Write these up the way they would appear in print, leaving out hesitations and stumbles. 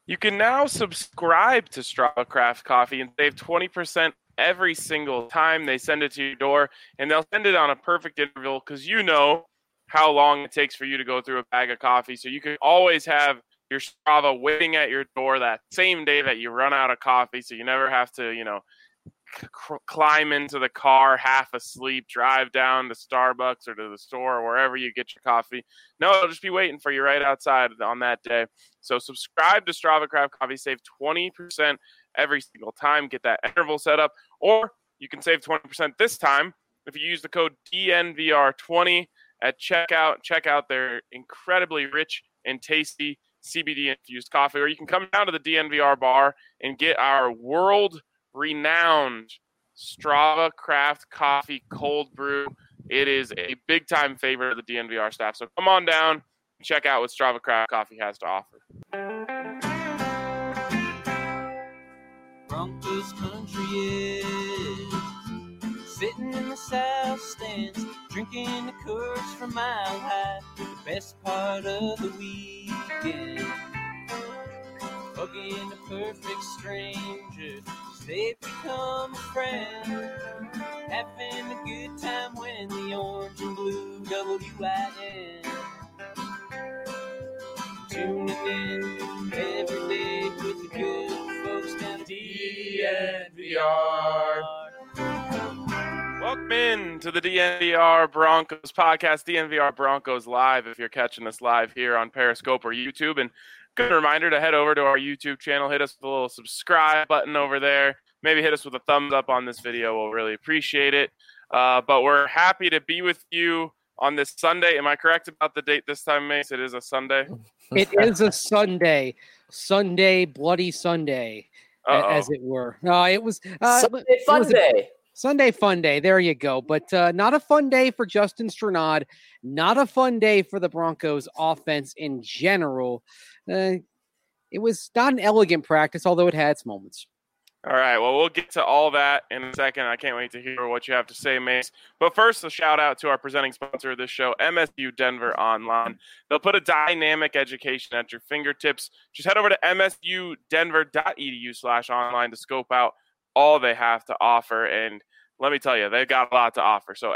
You can now subscribe to Strava Craft Coffee and save 20% every single time they send it to your door. And they'll send it on a perfect interval because you know how long it takes for you to go through a bag of coffee. So you can always have your Strava waiting at your door that same day that you run out of coffee. So you never have to, climb into the car half asleep, drive down to Starbucks or to the store or wherever you get your coffee. No, it'll just be waiting for you right outside on that day. So subscribe to Strava Craft Coffee, save 20% every single time. Get that interval set up, or you can save 20% this time if you use the code DNVR20 at checkout. Check out their incredibly rich and tasty CBD infused coffee, or you can come down to the DNVR bar and get our world-renowned Strava Craft Coffee cold brew. It is a big-time favorite of the DNVR staff. So come on down and check out what Strava Craft Coffee has to offer. Broncos country is sitting in the south stands, drinking the Coors from Mile High, the best part of the weekend. Hugging a perfect stranger, they've become a friend. Having a good time when the orange and blue WIN. Tuning in every day with the good folks down at DNVR. Welcome in to the DNVR Broncos podcast, DNVR Broncos Live, if you're catching us live here on Periscope or YouTube. And good reminder to head over to our YouTube channel, hit us with a little subscribe button over there. Maybe hit us with a thumbs up on this video. We'll really appreciate it. But we're happy to be with you on this Sunday. Am I correct about the date this time, Mace? It is a Sunday? It is a Sunday. Sunday, bloody Sunday, as it were. No, it was Sunday fun day. Sunday fun day. There you go. But not a fun day for Justin Strnad. Not a fun day for the Broncos offense in general. It was not an elegant practice, although it had its moments. All right, well, we'll get to all that in a second. I can't wait to hear what you have to say, Mace. But first, a shout-out to our presenting sponsor of this show, MSU Denver Online. They'll put a dynamic education at your fingertips. Just head over to msudenver.edu/online to scope out all they have to offer. And let me tell you, they've got a lot to offer. So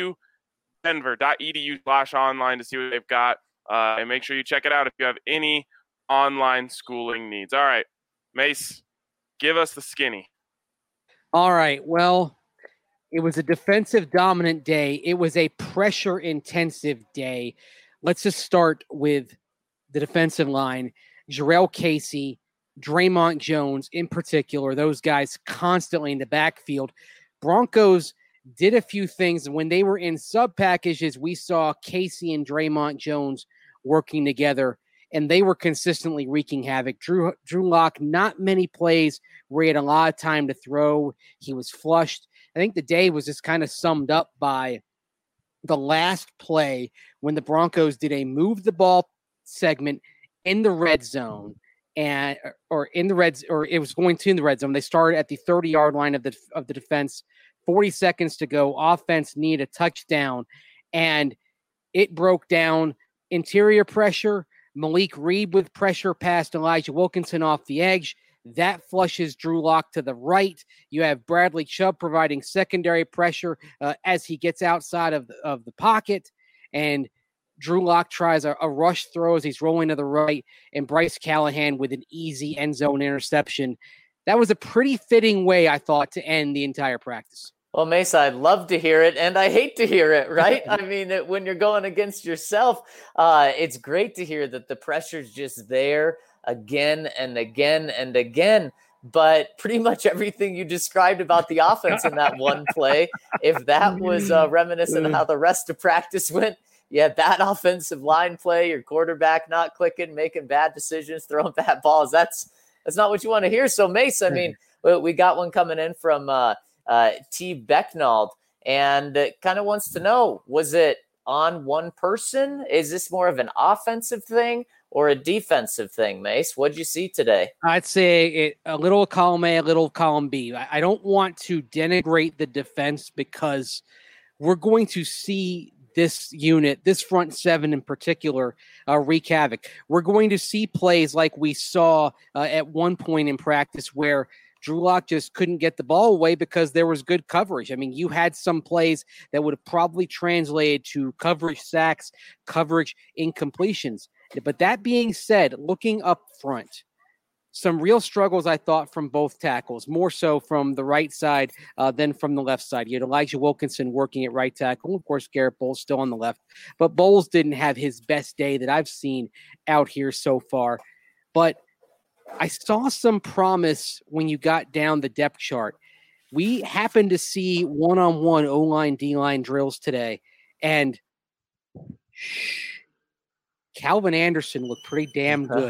msudenver.edu/online to see what they've got. And make sure you check it out if you have any online schooling needs. All right, Mace. Give us the skinny. All right. Well, it was a defensive dominant day. It was a pressure intensive day. Let's just start with the defensive line. Jurrell Casey, Draymond Jones in particular, those guys constantly in the backfield. Broncos did a few things. When they were in sub packages, we saw Casey and Draymond Jones working together, and they were consistently wreaking havoc. Drew Lock, not many plays where he had a lot of time to throw. He was flushed. I think the day was just kind of summed up by the last play when the Broncos did a move the ball segment in the red zone, it was going to in the red zone. They started at the 30-yard line of the defense, 40 seconds to go. Offense needed a touchdown, and it broke down. Interior pressure. Malik Reed with pressure past Elijah Wilkinson off the edge. That flushes Drew Lock to the right. You have Bradley Chubb providing secondary pressure as he gets outside of the pocket. And Drew Lock tries a rush throw as he's rolling to the right. And Bryce Callahan with an easy end zone interception. That was a pretty fitting way, I thought, to end the entire practice. Well, Mesa, I'd love to hear it, and I hate to hear it, right? I mean, when you're going against yourself, it's great to hear that the pressure's just there again and again and again. But pretty much everything you described about the offense in that one play, if that was reminiscent of how the rest of practice went, yeah, that offensive line play, your quarterback not clicking, making bad decisions, throwing bad balls, that's not what you want to hear. So, Mace, I mean, we got one coming in from T. Becknald, and kind of wants to know, was it on one person? Is this more of an offensive thing or a defensive thing, Mace? What'd you see today? I'd say a little column A, a little column B. I don't want to denigrate the defense because we're going to see this unit, this front seven in particular, wreak havoc. We're going to see plays like we saw at one point in practice where Drew Lock just couldn't get the ball away because there was good coverage. I mean, you had some plays that would have probably translated to coverage sacks, coverage incompletions. But that being said, looking up front, some real struggles, I thought, from both tackles, more so from the right side than from the left side. You had Elijah Wilkinson working at right tackle. Of course, Garrett Bowles still on the left. But Bowles didn't have his best day that I've seen out here so far. But I saw some promise when you got down the depth chart. We happened to see one-on-one O-line, D-line drills today. And Calvin Anderson looked pretty damn good.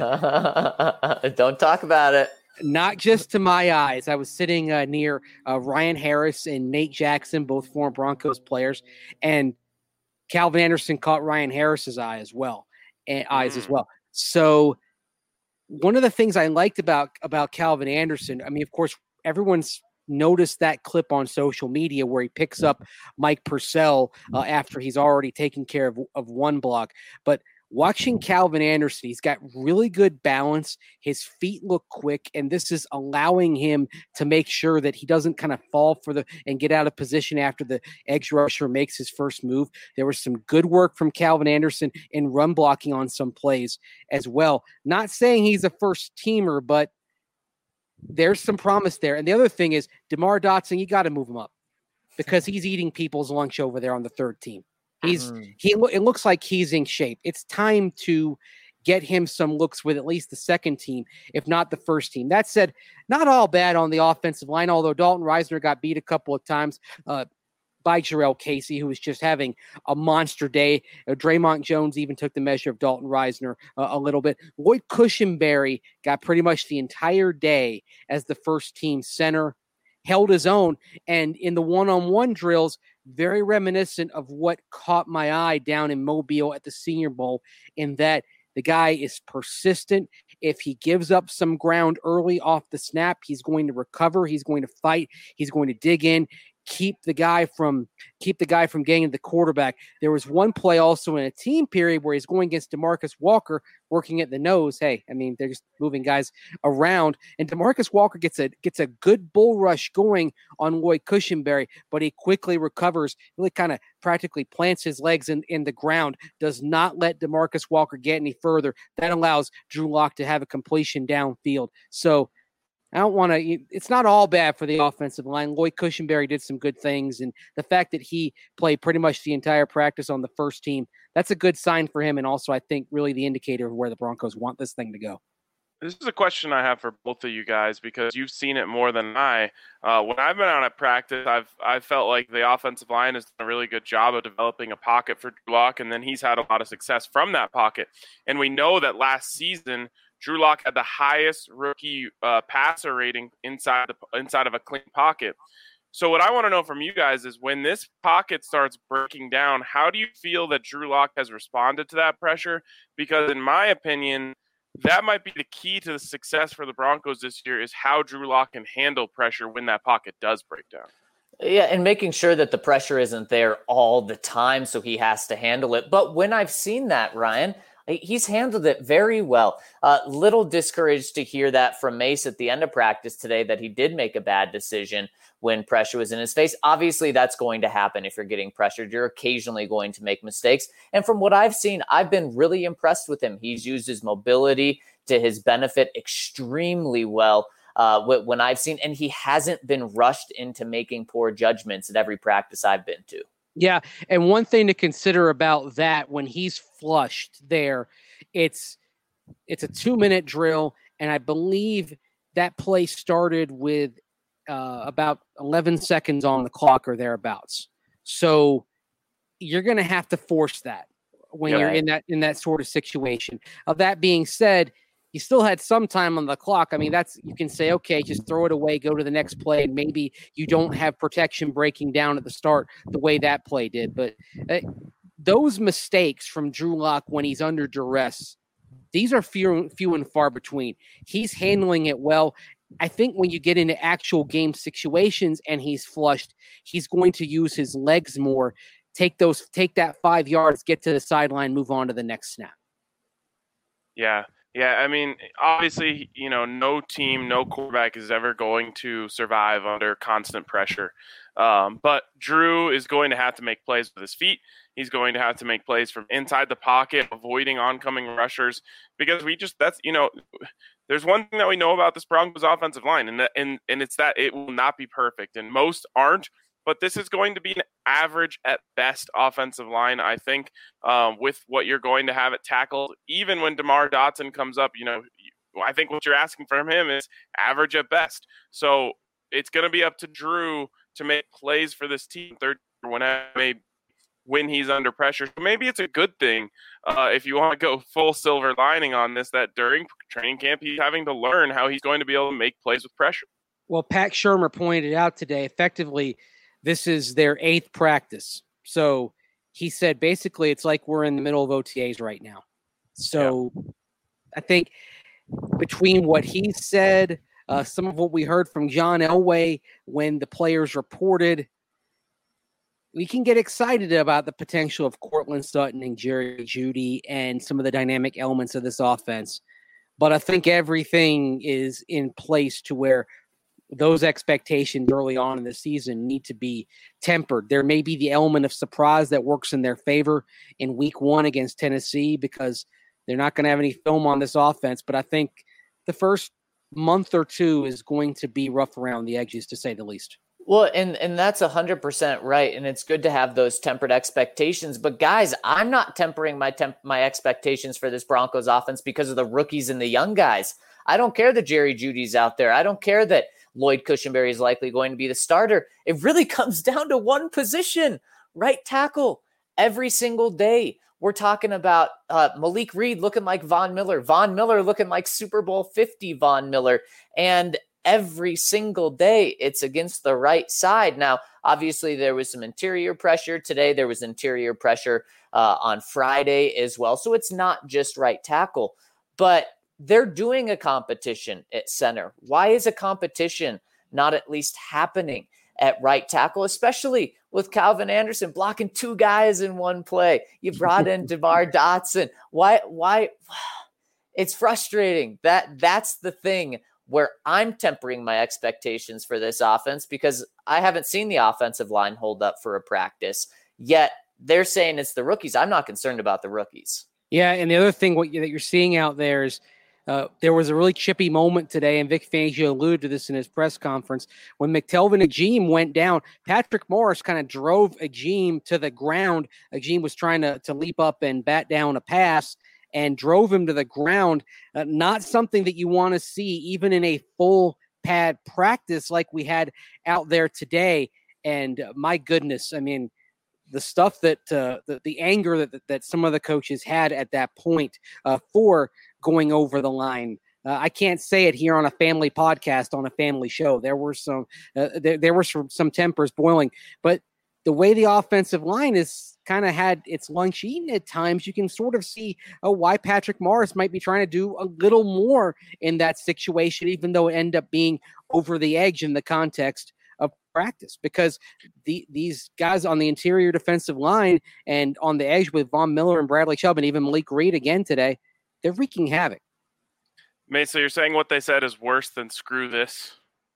Don't talk about it. Not just to my eyes. I was sitting near Ryan Harris and Nate Jackson, both former Broncos players, and Calvin Anderson caught Ryan Harris's eye as well, eyes as well. So one of the things I liked about Calvin Anderson, I mean, of course, everyone's noticed that clip on social media where he picks up Mike Purcell after he's already taken care of one block, but watching Calvin Anderson, he's got really good balance. His feet look quick, and this is allowing him to make sure that he doesn't kind of fall and get out of position after the edge rusher makes his first move. There was some good work from Calvin Anderson in run blocking on some plays as well. Not saying he's a first teamer, but there's some promise there. And the other thing is DeMar Dotson, you got to move him up because he's eating people's lunch over there on the third team. It looks like he's in shape. It's time to get him some looks with at least the second team, if not the first team. That said, not all bad on the offensive line, although Dalton Reisner got beat a couple of times by Jarrell Casey, who was just having a monster day. Draymond Jones even took the measure of Dalton Reisner a little bit. Lloyd Cushenberry got pretty much the entire day as the first team center, held his own, and in the one-on-one drills, very reminiscent of what caught my eye down in Mobile at the Senior Bowl, in that the guy is persistent. If he gives up some ground early off the snap, he's going to recover. He's going to fight. He's going to dig in. Keep the guy from getting to the quarterback. There was one play also in a team period where he's going against DeMarcus Walker, working at the nose. Hey, I mean, they're just moving guys around, and DeMarcus Walker gets a good bull rush going on Lloyd Cushenberry, but he quickly recovers, really kind of practically plants his legs in the ground, does not let DeMarcus Walker get any further. That allows Drew Lock to have a completion downfield. So I don't want to – it's not all bad for the offensive line. Lloyd Cushenberry did some good things, and the fact that he played pretty much the entire practice on the first team, that's a good sign for him, and also I think really the indicator of where the Broncos want this thing to go. This is a question I have for both of you guys because you've seen it more than I. When I've been out at practice, I've felt like the offensive line has done a really good job of developing a pocket for Drew Lock, and then he's had a lot of success from that pocket. And we know that last season – Drew Lock had the highest rookie passer rating inside of a clean pocket. So what I want to know from you guys is when this pocket starts breaking down, how do you feel that Drew Lock has responded to that pressure? Because in my opinion, that might be the key to the success for the Broncos this year is how Drew Lock can handle pressure when that pocket does break down. Yeah, and making sure that the pressure isn't there all the time so he has to handle it. But when I've seen that, Ryan, he's handled it very well. Little discouraged to hear that from Mace at the end of practice today, that he did make a bad decision when pressure was in his face. Obviously, that's going to happen if you're getting pressured. You're occasionally going to make mistakes. And from what I've seen, I've been really impressed with him. He's used his mobility to his benefit extremely well when I've seen, and he hasn't been rushed into making poor judgments at every practice I've been to. Yeah, and one thing to consider about that, when he's flushed there, it's a 2-minute drill, and I believe that play started with about 11 seconds on the clock or thereabouts. So you're going to have to force that when you're in that sort of situation. That being said, you still had some time on the clock. I mean, you can say, okay, just throw it away, go to the next play, and maybe you don't have protection breaking down at the start the way that play did. But those mistakes from Drew Lock when he's under duress, these are few and far between. He's handling it well. I think when you get into actual game situations and he's flushed, he's going to use his legs more take that 5 yards, get to the sideline, move on to the next snap. Yeah. Yeah, I mean, obviously, no team, no quarterback is ever going to survive under constant pressure. But Drew is going to have to make plays with his feet. He's going to have to make plays from inside the pocket, avoiding oncoming rushers, because there's one thing that we know about this Broncos offensive line, and it's that it will not be perfect, and most aren't. But this is going to be an average at best offensive line, I think, with what you're going to have at tackle. Even when DeMar Dotson comes up, I think what you're asking from him is average at best. So it's going to be up to Drew to make plays for this team when he's under pressure. So maybe it's a good thing if you want to go full silver lining on this, that during training camp he's having to learn how he's going to be able to make plays with pressure. Well, Pat Shermer pointed out today, effectively, this is their 8th practice. So he said, basically, it's like we're in the middle of OTAs right now. So I think between what he said, some of what we heard from John Elway when the players reported, we can get excited about the potential of Courtland Sutton and Jerry Jeudy and some of the dynamic elements of this offense. But I think everything is in place to where those expectations early on in the season need to be tempered. There may be the element of surprise that works in their favor in week 1 against Tennessee because they're not going to have any film on this offense. But I think the first month or two is going to be rough around the edges, to say the least. Well, and that's 100% right. And it's good to have those tempered expectations. But guys, I'm not tempering my expectations for this Broncos offense because of the rookies and the young guys. I don't care that Jerry Jeudy's out there. I don't care that Lloyd Cushenberry is likely going to be the starter. It really comes down to one position, right tackle. Every single day, we're talking about Malik Reed looking like Von Miller looking like Super Bowl 50 Von Miller. And every single day, it's against the right side. Now, obviously, there was some interior pressure today. There was interior pressure on Friday as well. So it's not just right tackle. But they're doing a competition at center. Why is a competition not at least happening at right tackle, especially with Calvin Anderson blocking 2 guys in one play? You brought in DeMar Dotson. Why? It's frustrating. That's the thing where I'm tempering my expectations for this offense because I haven't seen the offensive line hold up for a practice. Yet they're saying it's the rookies. I'm not concerned about the rookies. Yeah, and the other thing that you're seeing out there is there was a really chippy moment today, and Vic Fangio alluded to this in his press conference. When McTelvin Agim went down, Patrick Morris kind of drove Agim to the ground. Agim was trying to leap up and bat down a pass and drove him to the ground. Not something that you want to see even in a full pad practice like we had out there today. And my goodness, I mean, the stuff that the anger that some of the coaches had at that point for going over the line. I can't say it here on a family podcast, on a family show. There were some tempers boiling, but the way the offensive line is kind of had its lunch eaten at times, you can sort of see why Patrick Morris might be trying to do a little more in that situation, even though it ended up being over the edge in the context of practice, because these guys on the interior defensive line and on the edge with Von Miller and Bradley Chubb and even Malik Reed again today, they're wreaking havoc. Mate, so you're saying what they said is worse than screw this?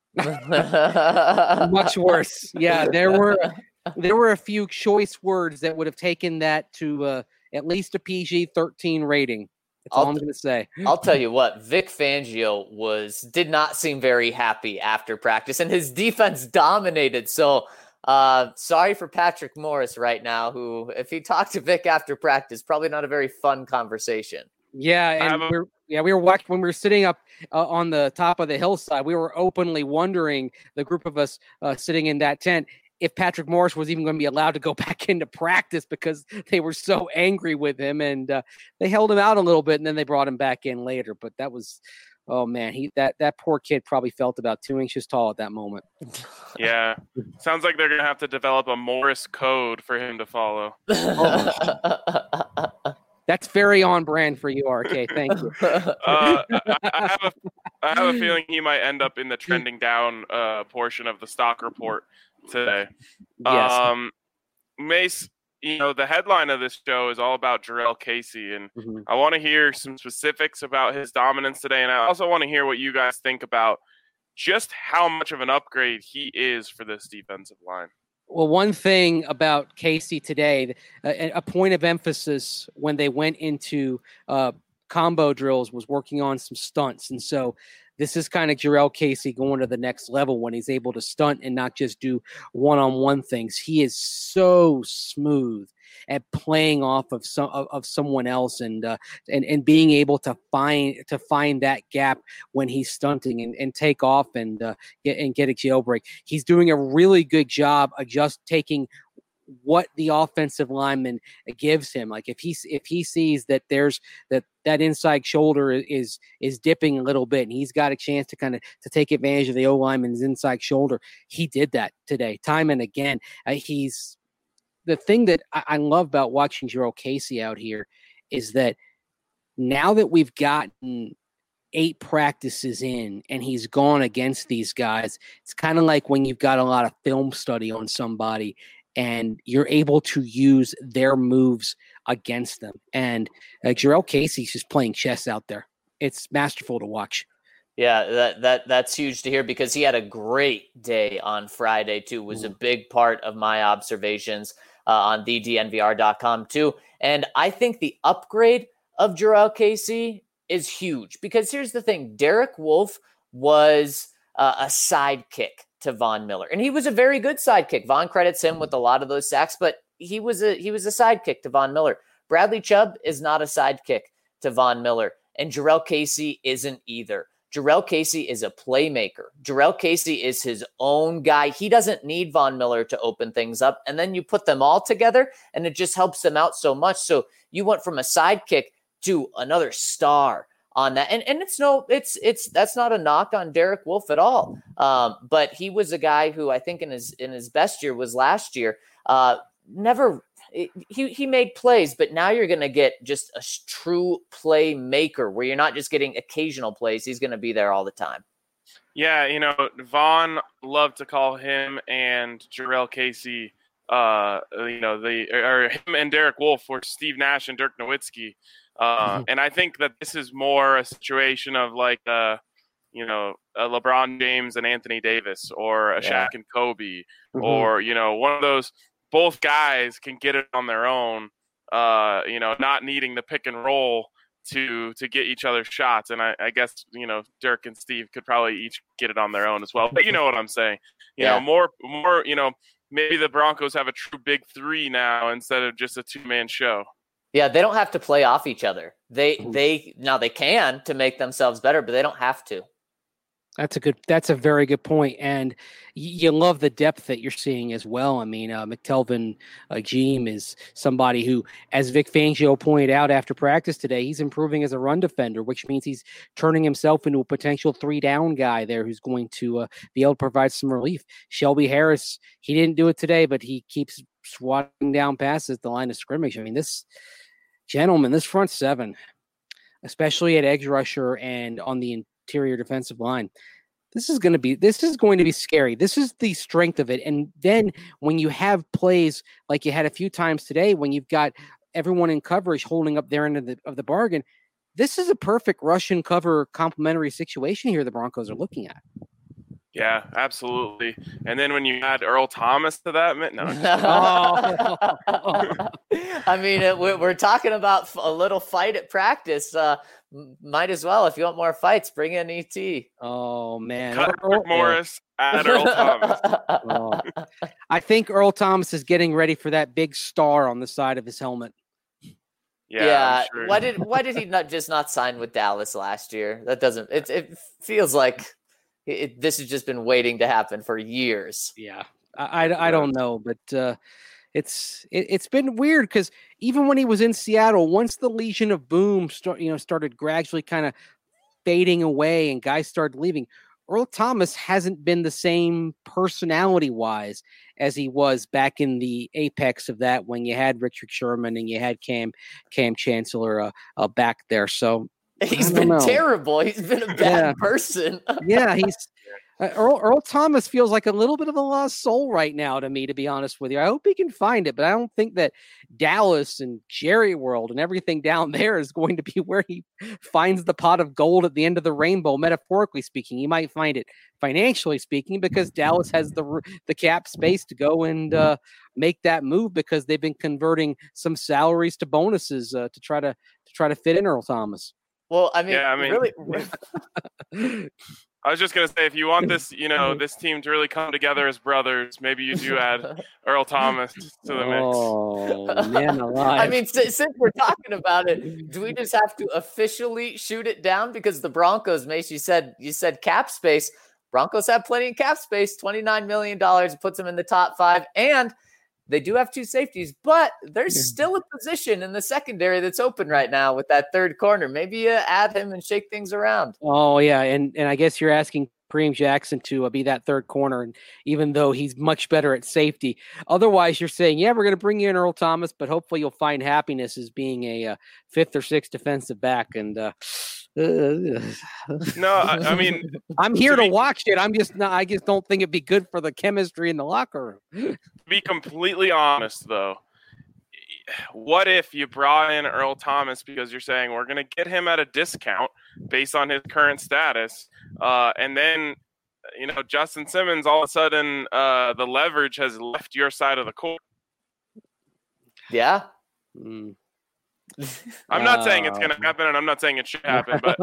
Much worse. Yeah, there were a few choice words that would have taken that to at least a PG-13 rating. That's all I'm going to say. I'll tell you what, Vic Fangio did not seem very happy after practice, and his defense dominated. So sorry for Patrick Morris right now, who, if he talked to Vic after practice, probably not a very fun conversation. Yeah, and we were watching when we were sitting up on the top of the hillside. We were openly wondering, the group of us sitting in that tent, if Patrick Morris was even going to be allowed to go back into practice because they were so angry with him, and they held him out a little bit, and then they brought him back in later. But that was, oh man, that poor kid probably felt about 2 inches tall at that moment. Yeah, sounds like they're going to have to develop a Morris code for him to follow. That's very on brand for you, RK. Thank you. I have a feeling he might end up in the trending down portion of the stock report today. Yes. Mace, the headline of this show is all about Jarrell Casey, and Mhm. I want to hear some specifics about his dominance today, and I also want to hear what you guys think about just how much of an upgrade he is for this defensive line. Well, one thing about Casey today, a point of emphasis when they went into combo drills was working on some stunts. And so this is kind of Jarrell Casey going to the next level when he's able to stunt and not just do one-on-one things. He is so smooth at playing off of someone else and being able to find that gap when he's stunting and take off and get a jailbreak. He's doing a really good job of just taking what the offensive lineman gives him. Like if he sees that there's that inside shoulder is dipping a little bit and he's got a chance to kind of to take advantage of the O lineman's inside shoulder, he did that today time and again. He's the thing that I love about watching Jarrell Casey out here is that now that we've gotten 8 practices in and he's gone against these guys, it's kind of like when you've got a lot of film study on somebody and you're able to use their moves against them. And Jarrell Casey's just playing chess out there. It's masterful to watch. Yeah, that's huge to hear because he had a great day on Friday too. Was a big part of my observations on thednvr.com too. And I think the upgrade of Jarrell Casey is huge because here's the thing. Derek Wolfe was a sidekick to Von Miller, and he was a very good sidekick. Von credits him with a lot of those sacks, but he was a sidekick to Von Miller. Bradley Chubb is not a sidekick to Von Miller, and Jarrell Casey isn't either. Jarrell Casey is a playmaker. Jarrell Casey is his own guy. He doesn't need Von Miller to open things up. And then you put them all together and it just helps them out so much. So you went from a sidekick to another star on that. And that's not a knock on Derek Wolfe at all. But he was a guy who I think in his best year was last year. He made plays, but now you're going to get just a true playmaker where you're not just getting occasional plays. He's going to be there all the time. Yeah, Vaughn loved to call him and Jarrell Casey, him and Derek Wolfe were Steve Nash and Dirk Nowitzki. And I think that this is more a situation of like, a LeBron James and Anthony Davis or a Shaq and Kobe or, one of those. Both guys can get it on their own, not needing the pick and roll to get each other shots. And I guess, Dirk and Steve could probably each get it on their own as well. But you know what I'm saying? More, maybe the Broncos have a true big 3 now instead of just a 2-man show. Yeah, they don't have to play off each other. They can to make themselves better, but they don't have to. That's a very good point. And you love the depth that you're seeing as well. I mean, McTelvin Agim is somebody who, as Vic Fangio pointed out after practice today, he's improving as a run defender, which means he's turning himself into a potential 3-down guy there who's going to be able to provide some relief. Shelby Harris, he didn't do it today, but he keeps swatting down passes at the line of scrimmage. I mean, this front 7, especially at edge rusher and on the interior defensive line, this is going to be scary. This is the strength of it. And then when you have plays like you had a few times today, when you've got everyone in coverage holding up their end of the bargain, this is a perfect rush and cover complementary situation here the Broncos are looking at. Yeah, absolutely. And then when you add Earl Thomas to that, no. I mean, we're talking about a little fight at practice. Might as well, if you want more fights, bring in ET. Oh man, Cut Morris, add Earl Thomas. I think Earl Thomas is getting ready for that big star on the side of his helmet. Yeah. Sure. Why did he not sign with Dallas last year? That doesn't. It feels like. This has just been waiting to happen for years. Yeah, I don't know, but it's been weird because even when he was in Seattle, once the Legion of Boom started gradually kind of fading away and guys started leaving, Earl Thomas hasn't been the same personality-wise as he was back in the apex of that when you had Richard Sherman and you had Cam Chancellor back there. So. He's been terrible. He's been a bad person. Yeah, Earl Thomas feels like a little bit of a lost soul right now to me, to be honest with you. I hope he can find it, but I don't think that Dallas and Jerry World and everything down there is going to be where he finds the pot of gold at the end of the rainbow, metaphorically speaking. He might find it financially speaking because Dallas has the cap space to go and make that move because they've been converting some salaries to bonuses to try to fit in Earl Thomas. Well, I mean really. I was just gonna say, if you want this, this team to really come together as brothers, maybe you do add Earl Thomas to the mix. Oh man, alive! I mean, since we're talking about it, do we just have to officially shoot it down? Because the Broncos, Mace, you said cap space. Broncos have plenty of cap space, $29 million. It puts them in the top 5, and they do have 2 safeties, but there's still a position in the secondary that's open right now with that third corner. Maybe you add him and shake things around. Oh, yeah, and I guess you're asking Kareem Jackson to be that third corner, and even though he's much better at safety. Otherwise, you're saying, yeah, we're going to bring you in Earl Thomas, but hopefully you'll find happiness as being a 5th or 6th defensive back. And no, I mean, I'm here to watch it. I just don't think it'd be good for the chemistry in the locker room. To be completely honest, though, what if you brought in Earl Thomas because you're saying we're going to get him at a discount based on his current status, and then Justin Simmons all of a sudden the leverage has left your side of the court? Yeah. I'm not saying it's going to happen, and I'm not saying it should happen, but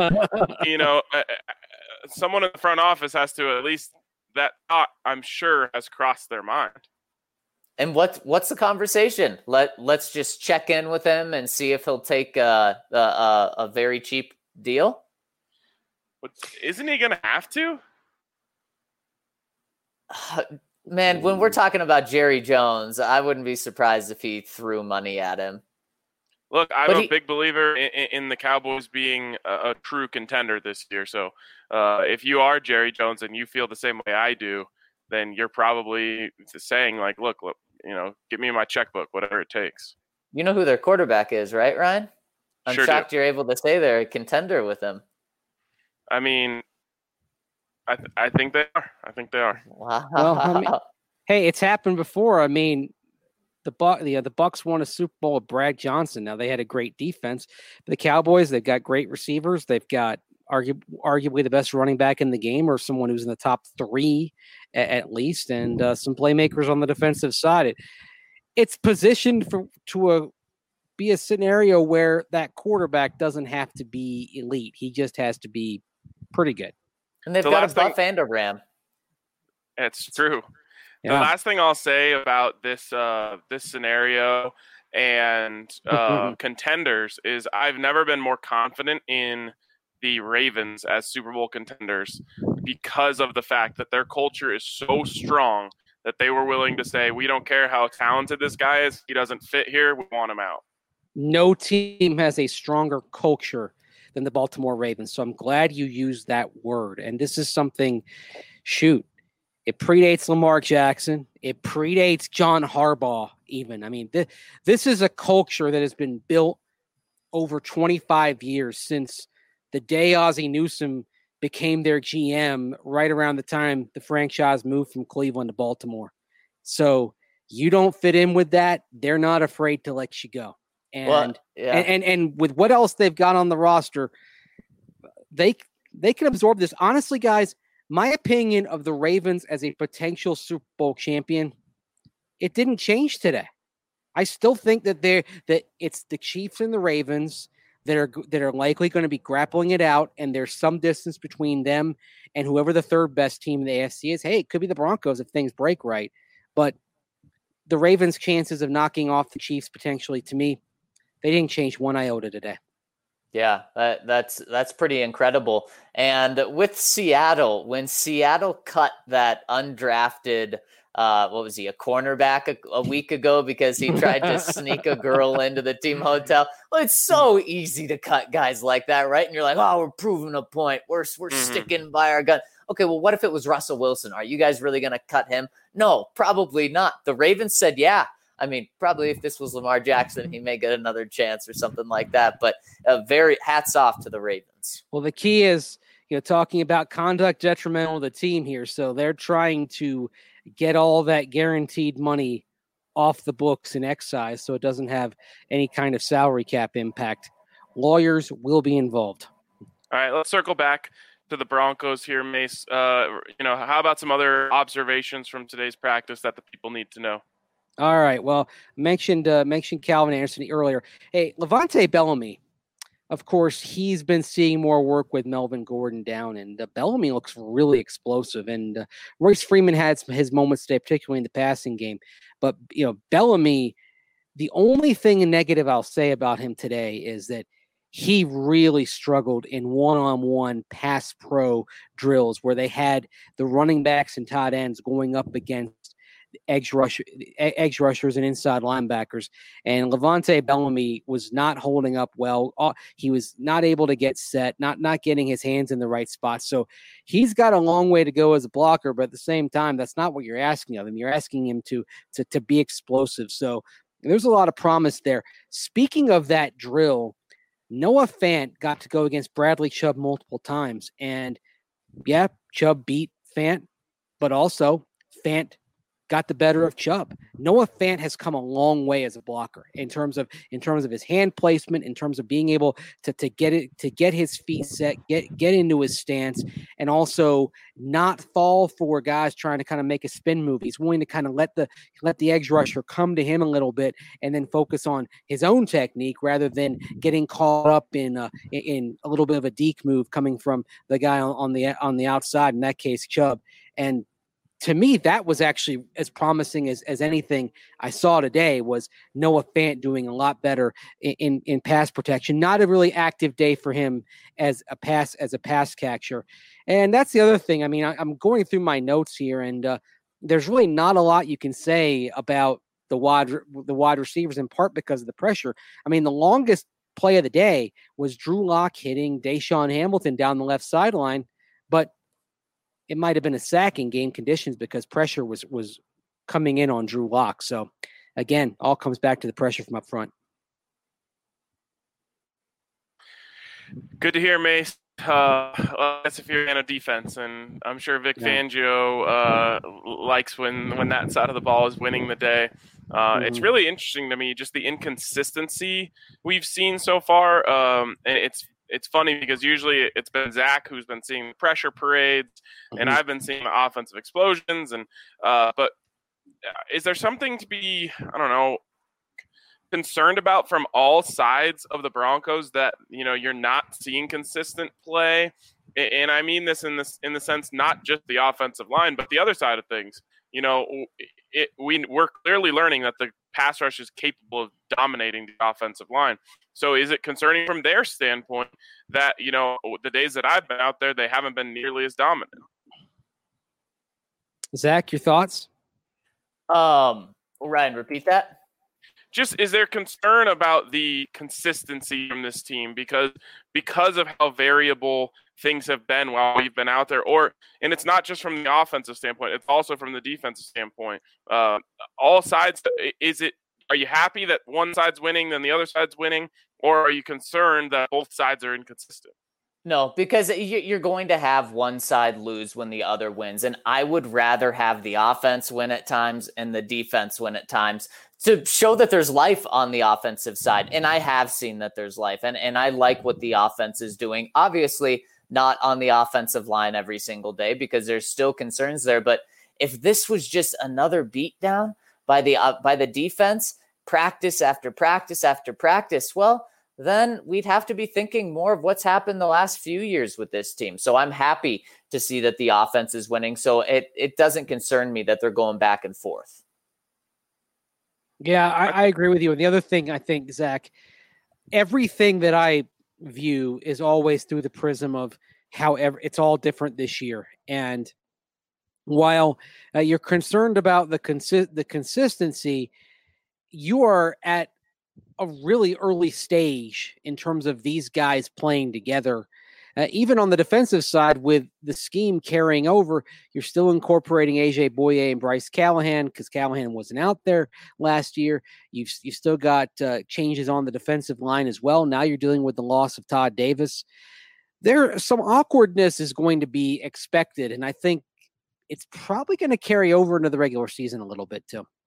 someone in the front office has to, at least that thought, I'm sure, has crossed their mind. And what's the conversation? Let's just check in with him and see if he'll take a very cheap deal. But isn't he going to have to? Man, when we're talking about Jerry Jones, I wouldn't be surprised if he threw money at him. Look, I'm a big believer in the Cowboys being a true contender this year. So if you are Jerry Jones and you feel the same way I do, then you're probably saying, like, look, give me my checkbook, whatever it takes. You know who their quarterback is, right, Ryan? I'm shocked you're able to say they're a contender with him. I mean, I think they are. I think they are. Wow. Well, hey, it's happened before. I mean, the Bucs won a Super Bowl with Brad Johnson. Now, they had a great defense. The Cowboys, they've got great receivers. They've got arguably the best running back in the game, or someone who's in the top 3 at least, and some playmakers on the defensive side. It's positioned to be a scenario where that quarterback doesn't have to be elite. He just has to be pretty good. And they've got a buff and a ram. It's true. Yeah. The last thing I'll say about this scenario and contenders is I've never been more confident in the Ravens as Super Bowl contenders because of the fact that their culture is so strong that they were willing to say, we don't care how talented this guy is. He doesn't fit here. We want him out. No team has a stronger culture than the Baltimore Ravens. So I'm glad you used that word. And this is something, it predates Lamar Jackson. It predates John Harbaugh even. I mean, this is a culture that has been built over 25 years since the day Ozzie Newsome became their GM, right around the time the franchise moved from Cleveland to Baltimore. So you don't fit in with that. They're not afraid to let you go. And and with what else they've got on the roster, they can absorb this. Honestly, guys, my opinion of the Ravens as a potential Super Bowl champion, it didn't change today. I still think that it's the Chiefs and the Ravens that are likely going to be grappling it out, and there's some distance between them and whoever the third best team in the AFC is. Hey, it could be the Broncos if things break right, but the Ravens' chances of knocking off the Chiefs potentially, to me, they didn't change one iota today. Yeah, that's pretty incredible. And with Seattle, when Seattle cut that undrafted, a cornerback a week ago because he tried to sneak a girl into the team hotel. Well, it's so easy to cut guys like that, right? And you're like, oh, we're proving a point. We're sticking by our gun. Okay, well, what if it was Russell Wilson? Are you guys really going to cut him? No, probably not. The Ravens said, yeah. I mean, probably if this was Lamar Jackson, he may get another chance or something like that. But very hats off to the Ravens. Well, the key is talking about conduct detrimental to the team here. So they're trying to get all that guaranteed money off the books in excise so it doesn't have any kind of salary cap impact. Lawyers will be involved. All right, let's circle back to the Broncos here, Mace. How about some other observations from today's practice that the people need to know? All right. Well, mentioned Calvin Anderson earlier. Hey, Levante Bellamy, of course, he's been seeing more work with Melvin Gordon down, and Bellamy looks really explosive. And Royce Freeman had his moments today, particularly in the passing game. But, Bellamy, the only thing negative I'll say about him today is that he really struggled in one-on-one pass pro drills where they had the running backs and tight ends going up against edge rushers and inside linebackers. And Levante Bellamy was not holding up well. He was not able to get set, not getting his hands in the right spot. So he's got a long way to go as a blocker, but at the same time, that's not what you're asking of him. You're asking him to be explosive. So there's a lot of promise there. Speaking of that drill, Noah Fant got to go against Bradley Chubb multiple times. And yeah, Chubb beat Fant, but also Fant got the better of Chubb. Noah Fant has come a long way as a blocker in terms of his hand placement, in terms of being able to get his feet set, get into his stance, and also not fall for guys trying to kind of make a spin move. He's willing to kind of let the edge rusher come to him a little bit and then focus on his own technique rather than getting caught up in a little bit of a deke move coming from the guy on the outside, in that case Chubb. And to me, that was actually as promising as anything I saw today. Was Noah Fant doing a lot better in pass protection. Not a really active day for him as a pass catcher. And that's the other thing. I mean, I'm going through my notes here, and there's really not a lot you can say about the wide receivers, in part because of the pressure. I mean, the longest play of the day was Drew Lock hitting Deshaun Hamilton down the left sideline, but it might have been a sack in game conditions because pressure was coming in on Drew Lock. So, again, all comes back to the pressure from up front. Good to hear, Mace. That's if you're a fan of defense, and I'm sure Vic Fangio likes when that side of the ball is winning the day. It's really interesting to me, just the inconsistency we've seen so far. And it's funny because usually it's been Zach who's been seeing the pressure parades, and I've been seeing the offensive explosions. And but is there something to be, concerned about from all sides of the Broncos that you're not seeing consistent play? And I mean this in the sense not just the offensive line, but the other side of things. We're clearly learning that the pass rush is capable of dominating the offensive line. So is it concerning from their standpoint that, the days that I've been out there, they haven't been nearly as dominant? Zach, your thoughts? Ryan, repeat that. Just, is there concern about the consistency from this team because of how variable things have been while we've been out there? And it's not just from the offensive standpoint, it's also from the defensive standpoint. All sides, are you happy that one side's winning then the other side's winning, or are you concerned that both sides are inconsistent? No, because you're going to have one side lose when the other wins. And I would rather have the offense win at times and the defense win at times to show that there's life on the offensive side. And I have seen that there's life. And I like what the offense is doing. Obviously, not on the offensive line every single day because there's still concerns there. But if this was just another beatdown by the defense, practice after practice after practice, well, then we'd have to be thinking more of what's happened the last few years with this team. So I'm happy to see that the offense is winning. So it doesn't concern me that they're going back and forth. Yeah, I agree with you. And the other thing I think, Zach, everything that I view is always through the prism of however it's all different this year. And while you're concerned about the consistency, you are at a really early stage in terms of these guys playing together. Even on the defensive side, with the scheme carrying over, you're still incorporating AJ Bouye and Bryce Callahan because Callahan wasn't out there last year. You've still got changes on the defensive line as well. Now you're dealing with the loss of Todd Davis. There, some awkwardness is going to be expected, and I think it's probably going to carry over into the regular season a little bit too.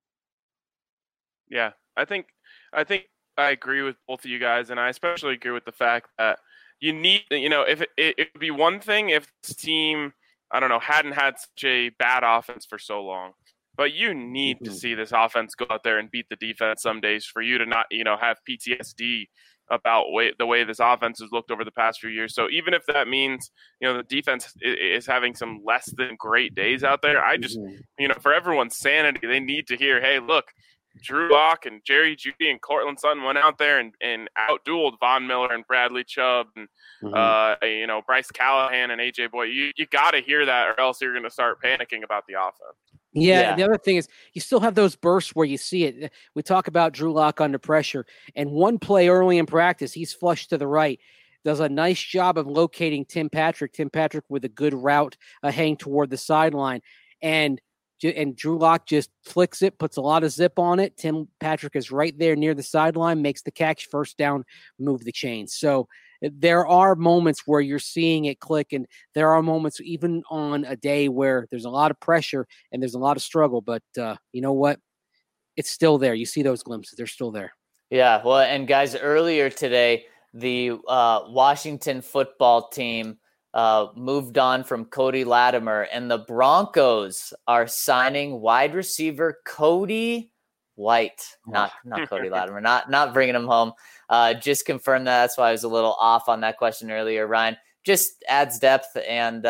Yeah, I think I agree with both of you guys, and I especially agree with the fact that you need, if it would be one thing if this team, I don't know, hadn't had such a bad offense for so long, but you need to see this offense go out there and beat the defense some days for you to not, have PTSD about the way this offense has looked over the past few years. So even if that means, the defense is having some less than great days out there, I just, for everyone's sanity, they need to hear, hey, look, Drew Lock and Jerry Jeudy and Cortland Sutton went out there and outdueled Von Miller and Bradley Chubb and Bryce Callahan and AJ Boyd. You got to hear that, or else you're going to start panicking about the offense. Yeah, the other thing is you still have those bursts where you see it. We talk about Drew Lock under pressure, and one play early in practice, he's flushed to the right. Does a nice job of locating Tim Patrick. Tim Patrick with a good route heading toward the sideline, and Drew Lock just flicks it, puts a lot of zip on it. Tim Patrick is right there near the sideline, makes the catch, first down, move the chains. So there are moments where you're seeing it click, and there are moments even on a day where there's a lot of pressure and there's a lot of struggle. But you know what? It's still there. You see those glimpses. They're still there. Yeah, well, and guys, earlier today, the Washington football team moved on from Cody Latimer, and the Broncos are signing wide receiver Cody White, not Cody Latimer, not bringing him home. Just confirmed that. That's why I was a little off on that question earlier, Ryan. Just adds depth, and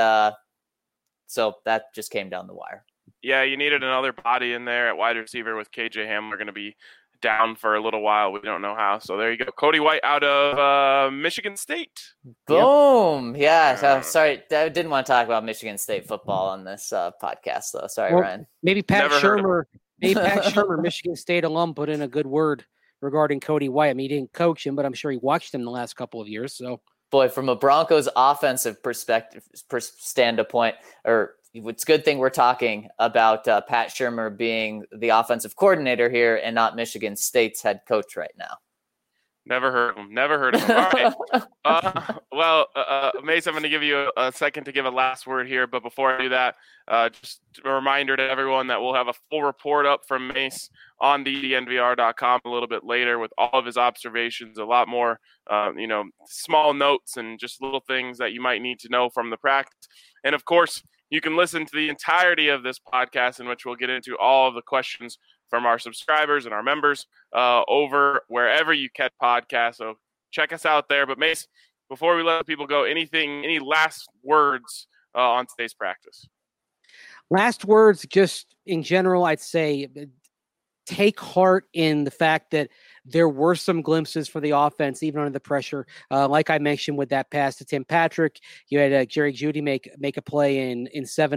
so that just came down the wire. Yeah, you needed another body in there at wide receiver with KJ Hamler going to be down for a little while. We don't know how. So there you go. Cody White out of Michigan State. Boom. Yep. Yeah. Sorry. I didn't want to talk about Michigan State football on this podcast, though. Sorry, Ryan. Maybe Pat Shurmur, Michigan State alum, put in a good word regarding Cody White. I mean, he didn't coach him, but I'm sure he watched him the last couple of years. So, boy, from a Broncos offensive perspective, standpoint, or it's a good thing we're talking about Pat Shurmur being the offensive coordinator here and not Michigan State's head coach right now. Never heard of him. All right. Mace, I'm going to give you a second to give a last word here. But before I do that, just a reminder to everyone that we'll have a full report up from Mace on DNVR.com a little bit later with all of his observations, a lot more, small notes and just little things that you might need to know from the practice. And, of course, you can listen to the entirety of this podcast in which we'll get into all of the questions from our subscribers and our members over wherever you catch podcasts. So check us out there. But Mace, before we let people go, any last words on today's practice? Last words, just in general, I'd say take heart in the fact that there were some glimpses for the offense, even under the pressure. Like I mentioned with that pass to Tim Patrick, you had Jerry Jeudy make a play in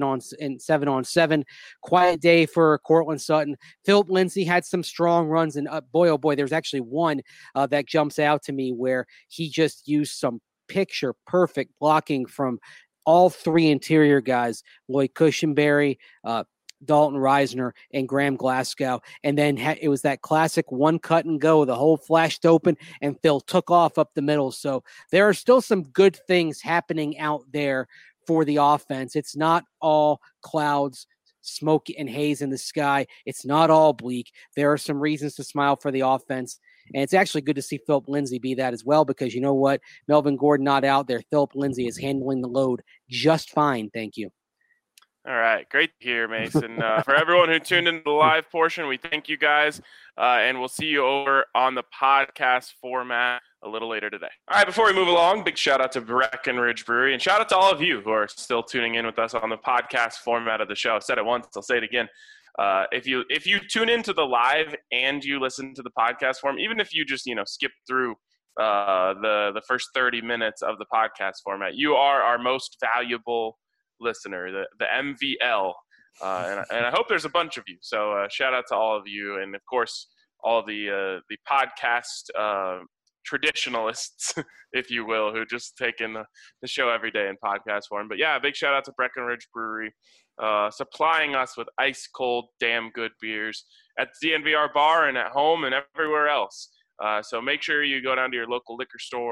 7-on-7. Quiet day for Cortland Sutton. Philip Lindsay had some strong runs, and boy, oh boy, there's actually one that jumps out to me where he just used some picture perfect blocking from all three interior guys, Lloyd Cushenberry, Dalton Reisner, and Graham Glasgow. And then it was that classic one cut and go. The hole flashed open and Phil took off up the middle. So there are still some good things happening out there for the offense. It's not all clouds, smoke, and haze in the sky. It's not all bleak. There are some reasons to smile for the offense. And it's actually good to see Philip Lindsay be that as well, because you know what? Melvin Gordon not out there. Philip Lindsay is handling the load just fine. Thank you. All right. Great to hear, Mason. For everyone who tuned into the live portion, we thank you guys, and we'll see you over on the podcast format a little later today. All right. Before we move along, big shout out to Breckenridge Brewery, and shout out to all of you who are still tuning in with us on the podcast format of the show. I said it once, I'll say it again. If you tune into the live and you listen to the podcast form, even if you just skip through the first 30 minutes of the podcast format, you are our most valuable listener, the MVL, and I hope there's a bunch of you. So shout out to all of you, and of course all the podcast traditionalists, if you will, who just take in the show every day in podcast form. But yeah, big shout out to Breckenridge Brewery, supplying us with ice cold, damn good beers at the DNVR bar and at home and everywhere else. So make sure you go down to your local liquor store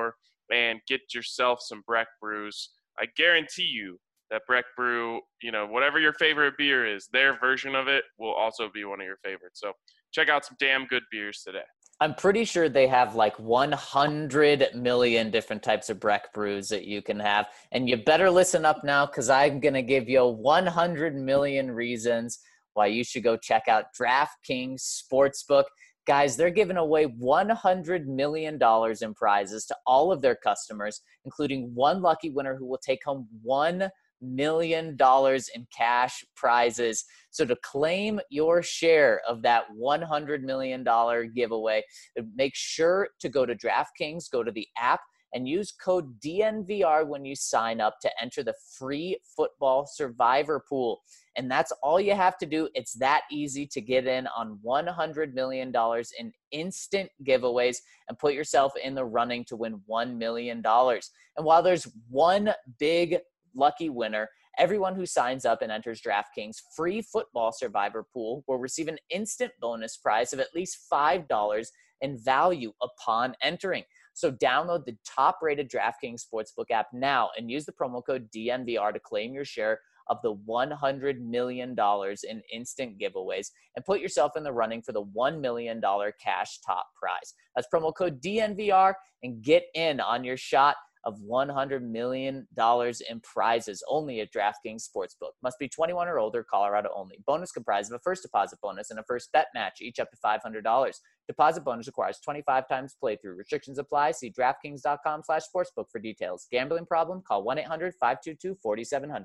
and get yourself some Breck brews. I guarantee you that Breck brew, whatever your favorite beer is, their version of it will also be one of your favorites. So check out some damn good beers today. I'm pretty sure they have like 100 million different types of Breck brews that you can have. And you better listen up now, because I'm going to give you 100 million reasons why you should go check out DraftKings Sportsbook. Guys, they're giving away $100 million in prizes to all of their customers, including one lucky winner who will take home $1 million in cash prizes. So to claim your share of that $100 million giveaway, make sure to go to DraftKings, go to the app, and use code DNVR when you sign up to enter the free football survivor pool. And that's all you have to do. It's that easy to get in on $100 million in instant giveaways and put yourself in the running to win $1 million. And while there's one big lucky winner, everyone who signs up and enters DraftKings free football survivor pool will receive an instant bonus prize of at least $5 in value upon entering. So download the top-rated DraftKings Sportsbook app now and use the promo code DNVR to claim your share of the $100 million in instant giveaways and put yourself in the running for the $1 million cash top prize. That's promo code DNVR and get in on your shot of $100 million in prizes only at DraftKings Sportsbook. Must be 21 or older, Colorado only. Bonus comprised of a first deposit bonus and a first bet match, each up to $500. Deposit bonus requires 25 times playthrough. Restrictions apply. See DraftKings.com/sportsbook for details. Gambling problem? Call 1-800-522-4700.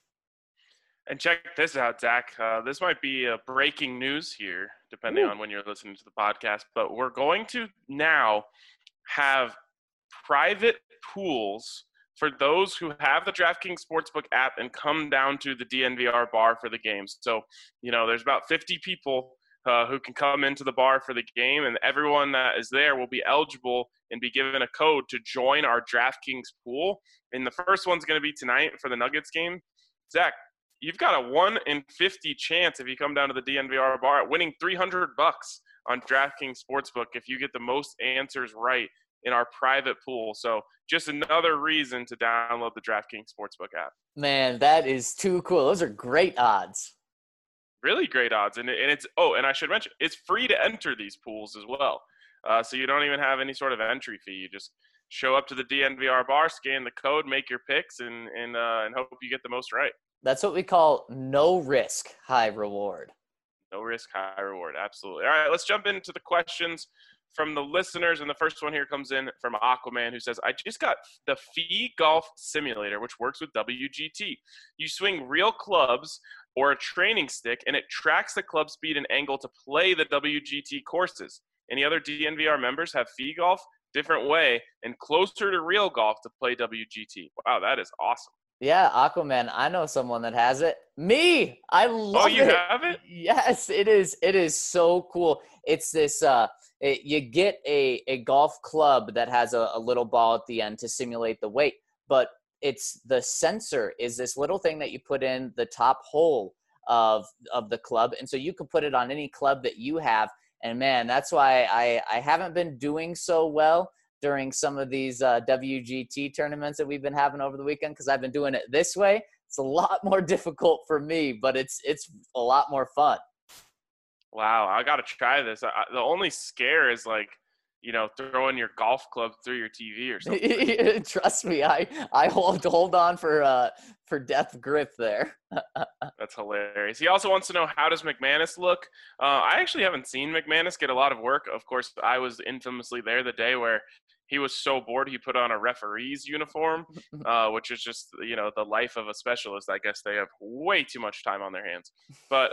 And check this out, Zach. This might be breaking news here, depending on when you're listening to the podcast. But we're going to now have private pools for those who have the DraftKings Sportsbook app and come down to the DNVR bar for the games. So, there's about 50 people who can come into the bar for the game, and everyone that is there will be eligible and be given a code to join our DraftKings pool. And the first one's going to be tonight for the Nuggets game. Zach, you've got a 1 in 50 chance if you come down to the DNVR bar at winning $300 on DraftKings Sportsbook if you get the most answers right in our private pool. So just another reason to download the DraftKings Sportsbook app. Man, that is too cool. Those are great odds. Really great odds. And I should mention, it's free to enter these pools as well. So you don't even have any sort of entry fee. You just show up to the DNVR bar, scan the code, make your picks, and hope you get the most right. That's what we call no risk, high reward. No risk, high reward. Absolutely. All right, let's jump into the questions from the listeners. And the first one here comes in from Aquaman, who says, I just got the Fee Golf Simulator, which works with WGT. You swing real clubs or a training stick, and it tracks the club speed and angle to play the WGT courses. Any other DNVR members have Fee Golf? Different way and closer to real golf to play WGT. Wow, that is awesome. Yeah, Aquaman, I know someone that has it. Me! I love it. Oh, you have it? Yes, it is. It is so cool. It's this, you get a golf club that has a little ball at the end to simulate the weight, but it's the sensor is this little thing that you put in the top hole of the club. And so you can put it on any club that you have. And man, that's why I haven't been doing so well during some of these WGT tournaments that we've been having over the weekend, because I've been doing it this way. It's a lot more difficult for me, but it's a lot more fun. Wow, I got to try this. The only scare is throwing your golf club through your TV or something. Trust me, I hold on for death grip there. That's hilarious. He also wants to know, how does McManus look? I actually haven't seen McManus get a lot of work. Of course, I was infamously there the day where he was so bored he put on a referee's uniform, which is just, the life of a specialist. I guess they have way too much time on their hands. But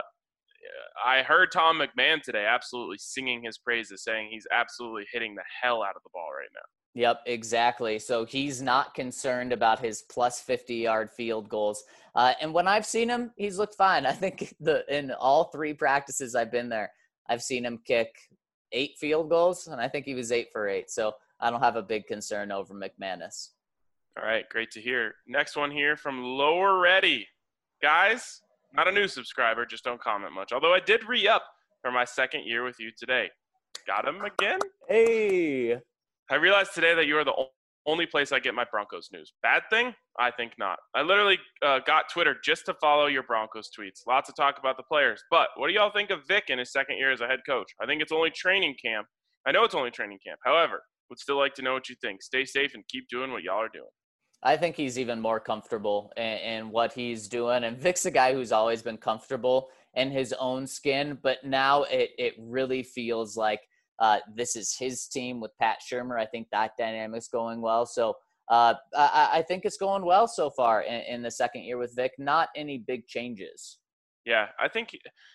I heard Tom McMahon today absolutely singing his praises, saying he's absolutely hitting the hell out of the ball right now. Yep, exactly. So he's not concerned about his plus 50-yard field goals. And when I've seen him, he's looked fine. I think in all 3 practices I've been there, I've seen him kick 8 field goals, and I think he was 8 for 8. So I don't have a big concern over McManus. All right, great to hear. Next one here from Lower Ready. Guys, not a new subscriber, just don't comment much. Although I did re-up for my second year with you today. Got him again? Hey. I realized today that you are the only place I get my Broncos news. Bad thing? I think not. I literally got Twitter just to follow your Broncos tweets. Lots of talk about the players. But what do y'all think of Vic in his second year as a head coach? I think it's only training camp. I know it's only training camp. However, would still like to know what you think. Stay safe and keep doing what y'all are doing. I think he's even more comfortable in what he's doing. And Vic's a guy who's always been comfortable in his own skin, but now it really feels like this is his team with Pat Shurmur. I think that dynamic's going well. So I think it's going well so far in the second year with Vic. Not any big changes. Yeah, I think,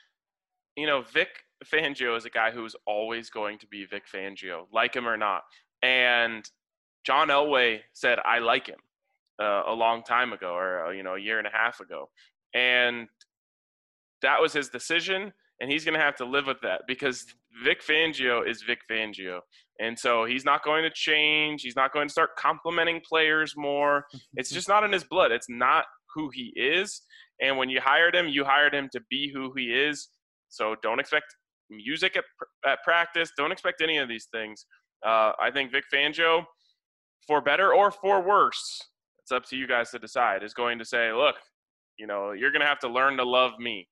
Vic Fangio is a guy who's always going to be Vic Fangio, like him or not. And John Elway said, I like him. A long time ago, or a year and a half ago, and that was his decision, and he's going to have to live with that because Vic Fangio is Vic Fangio, and so he's not going to change. He's not going to start complimenting players more. It's just not in his blood. It's not who he is, and when you hired him to be who he is. So don't expect music at practice. Don't expect any of these things. I think Vic Fangio, for better or for worse, it's up to you guys to decide, is going to say, look, you're going to have to learn to love me,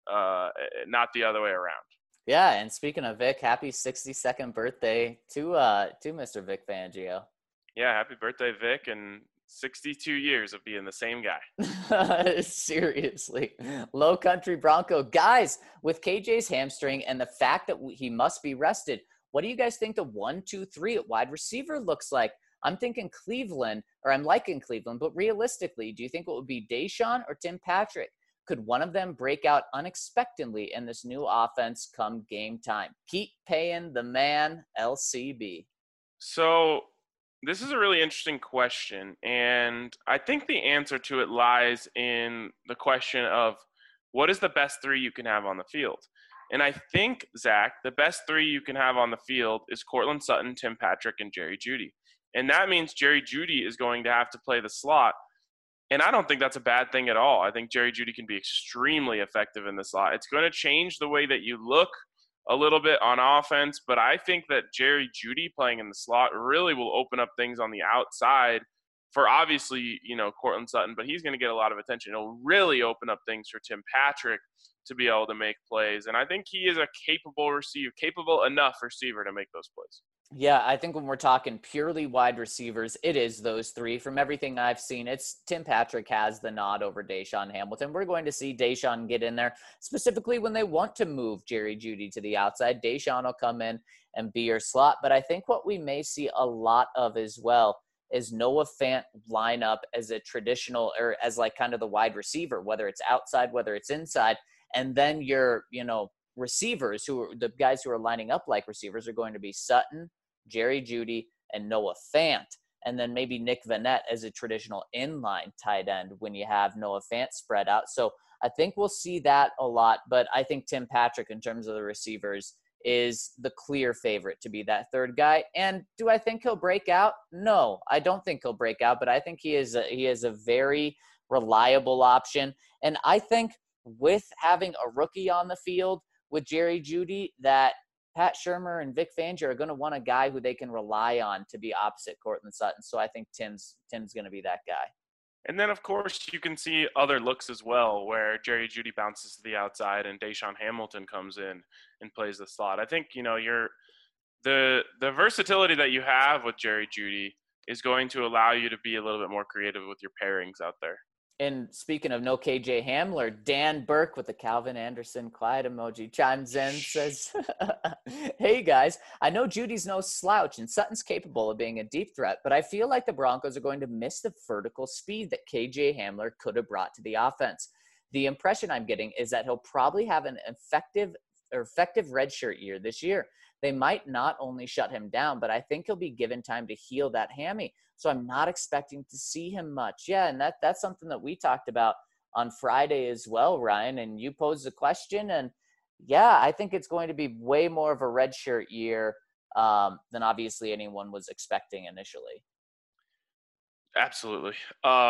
not the other way around. Yeah, and speaking of Vic, happy 62nd birthday to Mr. Vic Fangio. Yeah, happy birthday, Vic, and 62 years of being the same guy. Seriously. Low Country Bronco. Guys, with KJ's hamstring and the fact that he must be rested, what do you guys think the 1, 2, 3 at wide receiver looks like? I'm thinking Cleveland, or I'm liking Cleveland, but realistically, do you think it would be Deshaun or Tim Patrick? Could one of them break out unexpectedly in this new offense come game time? Keep paying the man, LCB. So this is a really interesting question, and I think the answer to it lies in the question of what is the best three you can have on the field? And I think, Zach, the best three you can have on the field is Courtland Sutton, Tim Patrick, and Jerry Jeudy. And that means Jerry Jeudy is going to have to play the slot. And I don't think that's a bad thing at all. I think Jerry Jeudy can be extremely effective in the slot. It's going to change the way that you look a little bit on offense, but I think that Jerry Jeudy playing in the slot really will open up things on the outside for obviously, Courtland Sutton, but he's going to get a lot of attention. It'll really open up things for Tim Patrick to be able to make plays. And I think he is a capable enough receiver to make those plays. Yeah, I think when we're talking purely wide receivers, it is those three. From everything I've seen, it's Tim Patrick has the nod over Deshaun Hamilton. We're going to see Deshaun get in there, specifically when they want to move Jerry Jeudy to the outside. Deshaun will come in and be your slot. But I think what we may see a lot of as well is Noah Fant line up as a traditional, or as like kind of the wide receiver, whether it's outside, whether it's inside. And then your, receivers, who are the guys who are lining up like receivers, are going to be Sutton, Jerry Jeudy, and Noah Fant. And then maybe Nick Vannett as a traditional inline tight end when you have Noah Fant spread out. So I think we'll see that a lot. But I think Tim Patrick, in terms of the receivers, is the clear favorite to be that third guy. And do I think he'll break out? No, I don't think he'll break out, but I think he is a very reliable option. And I think with having a rookie on the field with Jerry Jeudy, that Pat Shurmur and Vic Fangio are going to want a guy who they can rely on to be opposite Courtland Sutton. So I think Tim's going to be that guy. And then, of course, you can see other looks as well where Jerry Jeudy bounces to the outside and Deshaun Hamilton comes in and plays the slot. I think, the versatility that you have with Jerry Jeudy is going to allow you to be a little bit more creative with your pairings out there. And speaking of no KJ Hamler, Dan Burke with the Calvin Anderson quiet emoji chimes in, says, hey guys, I know Judy's no slouch and Sutton's capable of being a deep threat, but I feel like the Broncos are going to miss the vertical speed that KJ Hamler could have brought to the offense. The impression I'm getting is that he'll probably have an effective redshirt year this year. They might not only shut him down, but I think he'll be given time to heal that hammy. So I'm not expecting to see him much. Yeah, and that's something that we talked about on Friday as well, Ryan. And you posed the question, and yeah, I think it's going to be way more of a redshirt year than obviously anyone was expecting initially. Absolutely.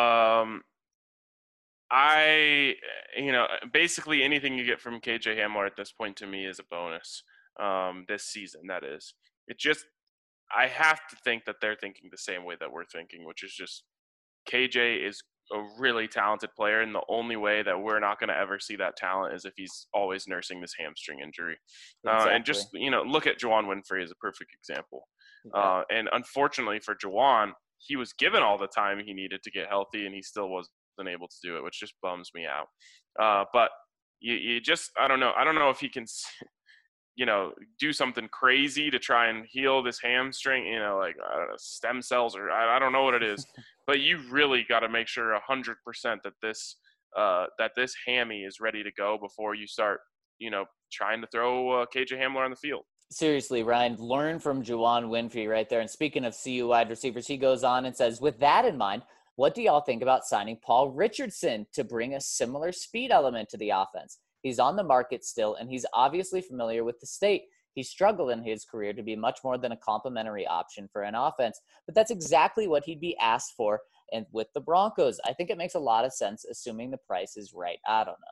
Basically anything you get from KJ Hamler at this point to me is a bonus this season, that is. It just I have to think that they're thinking the same way that we're thinking, which is just KJ is a really talented player, and the only way that we're not going to ever see that talent is if he's always nursing this hamstring injury. Exactly. And just, look at Juwan Winfrey as a perfect example. Yeah. And unfortunately for Juwan, he was given all the time he needed to get healthy, and he still wasn't able to do it, which just bums me out. But you just, I don't know. I don't know if he can, do something crazy to try and heal this hamstring, like, I don't know, stem cells, or I don't know what it is. But you really got to make sure 100% that this hammy is ready to go before you start, trying to throw KJ Hamler on the field. Seriously, Ryan, learn from Juwan Winfrey right there. And speaking of CU wide receivers, he goes on and says, with that in mind, what do y'all think about signing Paul Richardson to bring a similar speed element to the offense? He's on the market still, and he's obviously familiar with the state. He struggled in his career to be much more than a complementary option for an offense, but that's exactly what he'd be asked for. And with the Broncos, I think it makes a lot of sense, assuming the price is right. I don't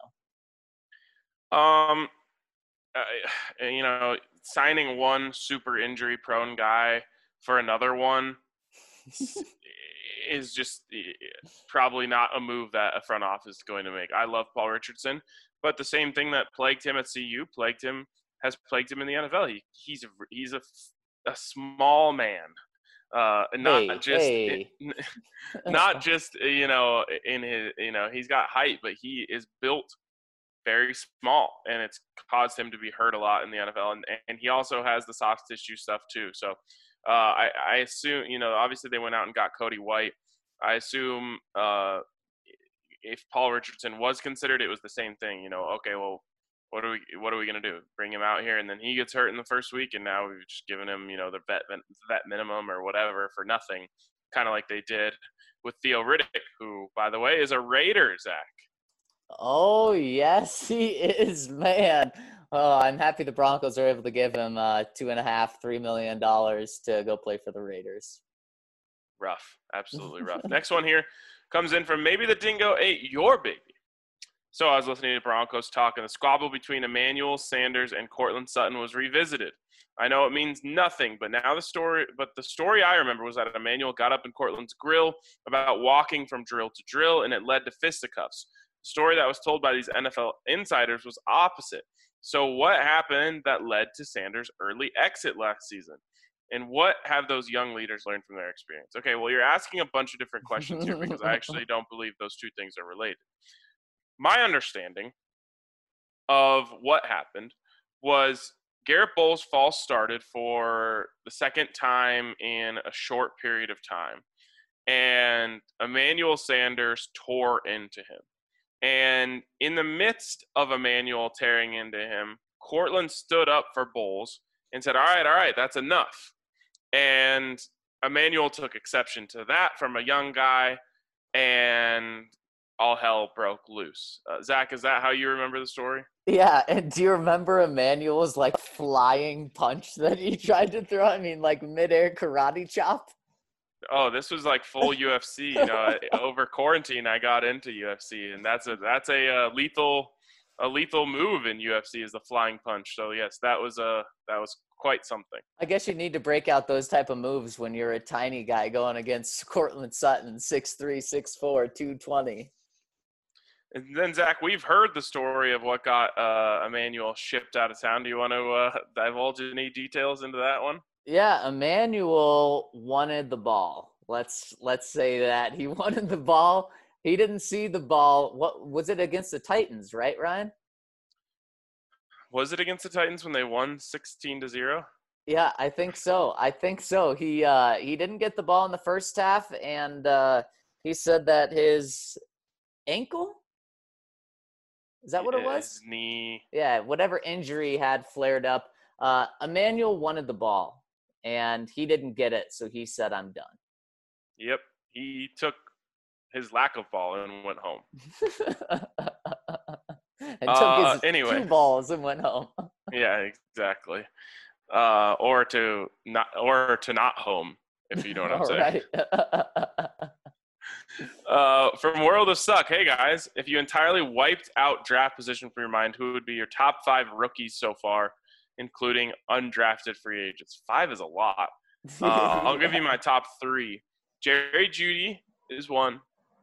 know. Signing one super injury prone guy for another one is just probably not a move that a front office is going to make. I love Paul Richardson, but the same thing that plagued him at CU has plagued him in the NFL. He's a small man, not just in his, he's got height, but he is built very small, and it's caused him to be hurt a lot in the NFL. And he also has the soft tissue stuff too. So I assume, obviously they went out and got Cody White. I assume if Paul Richardson was considered, it was the same thing. Okay, well, what are we gonna do? Bring him out here, and then he gets hurt in the first week, and now we've just given him, the vet minimum or whatever for nothing, kind of like they did with Theo Riddick, who, by the way, is a Raider, Zach. Oh, yes, he is, man. Oh, I'm happy the Broncos are able to give him $2.5-3 million to go play for the Raiders. Rough, absolutely rough. Next one here comes in from Maybe the Dingo Ate Your Baby. So I was listening to Broncos talk, and the squabble between Emmanuel Sanders and Courtland Sutton was revisited. I know it means nothing, but the story I remember was that Emmanuel got up in Courtland's grill about walking from drill to drill, and it led to fisticuffs. The story that was told by these NFL insiders was opposite. So what happened that led to Sanders' early exit last season? And what have those young leaders learned from their experience? Okay, well, you're asking a bunch of different questions here because I actually don't believe those two things are related. My understanding of what happened was Garrett Bowles false started for the second time in a short period of time, and Emmanuel Sanders tore into him. And in the midst of Emmanuel tearing into him, Courtland stood up for Bowles and said, all right, that's enough. And Emmanuel took exception to that from a young guy, and all hell broke loose. Zach, is that how you remember the story? Yeah, and do you remember Emmanuel's flying punch that he tried to throw? I mean, midair karate chop? Oh, this was full UFC. Over quarantine, I got into UFC, and that's a lethal move in UFC is the flying punch. So yes, that was quite something. I guess you need to break out those type of moves when you're a tiny guy going against Courtland Sutton, 6'3", 6'4", 220. And then Zach, we've heard the story of what got Emmanuel shipped out of town. Do you want to divulge any details into that one? Yeah, Emmanuel wanted the ball. Let's say that he wanted the ball. He didn't see the ball. What was it against the Titans, right, Ryan? Was it against the Titans when they won 16-0? Yeah, I think so. He didn't get the ball in the first half, and he said that his ankle. Is that what it was? His knee. Yeah, whatever injury had flared up. Emmanuel wanted the ball, and he didn't get it, so he said, I'm done. Yep. He took his lack of ball and went home. And took his 2 balls and went home. Yeah, exactly. Or to not home, if you know what I'm saying. Right. From World of Suck, hey guys, if you entirely wiped out draft position from your mind, who would be your top 5 rookies so far, including undrafted free agents? 5 is a lot. I'll give you my top 3. Jerry Jeudy is one.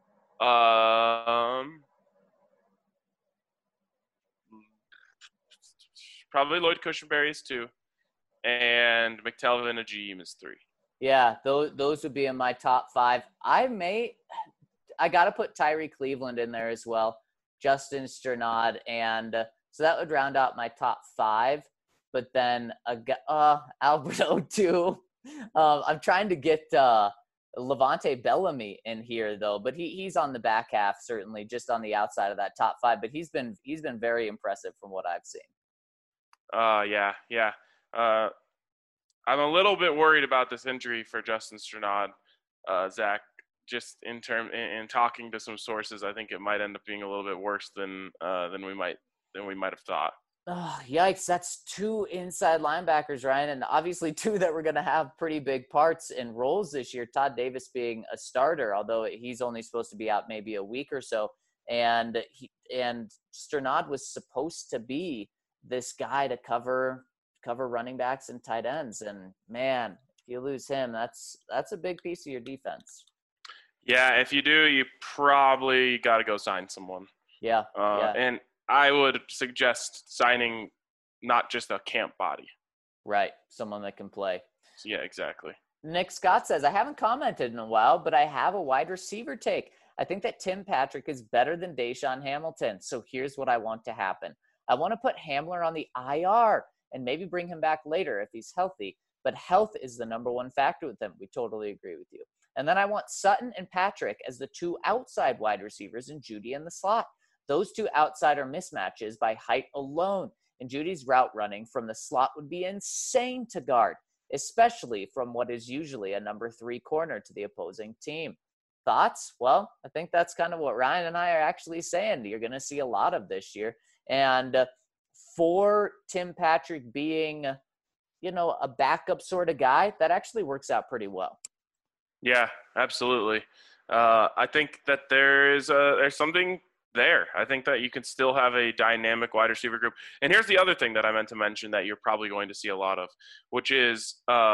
Probably Lloyd Cushenberry is 2. And McTelvin Agim is 3. Yeah, those would be in my top 5. I got to put Tyree Cleveland in there as well, Justin Strnad, and so that would round out my top 5. But then Alberto too. I'm trying to get Levante Bellamy in here though, but he's on the back half certainly, just on the outside of that top 5. But he's been very impressive from what I've seen. Yeah. I'm a little bit worried about this injury for Justin Strnad, Zach. Just in talking to some sources, I think it might end up being a little bit worse than we might have thought. Oh, yikes. That's 2 inside linebackers, Ryan, and obviously 2 that were going to have pretty big parts and roles this year. Todd Davis being a starter, although he's only supposed to be out maybe a week or so. And Strnad was supposed to be this guy to cover running backs and tight ends. And, man, if you lose him, that's a big piece of your defense. Yeah, if you do, you probably got to go sign someone. Yeah. And I would suggest signing not just a camp body. Right, someone that can play. Yeah, exactly. Nick Scott says, I haven't commented in a while, but I have a wide receiver take. I think that Tim Patrick is better than Deshaun Hamilton. So here's what I want to happen. I want to put Hamler on the IR and maybe bring him back later if he's healthy. But health is the number one factor with him. We totally agree with you. And then I want Sutton and Patrick as the 2 outside wide receivers and Jeudy in the slot. Those 2 outside are mismatches by height alone. And Judy's route running from the slot would be insane to guard, especially from what is usually a number 3 corner to the opposing team. Thoughts? Well, I think that's kind of what Ryan and I are actually saying. You're going to see a lot of this year. And for Tim Patrick being, a backup sort of guy, that actually works out pretty well. Yeah, absolutely. I think that there's something there. I think that you can still have a dynamic wide receiver group. And here's the other thing that I meant to mention that you're probably going to see a lot of, which is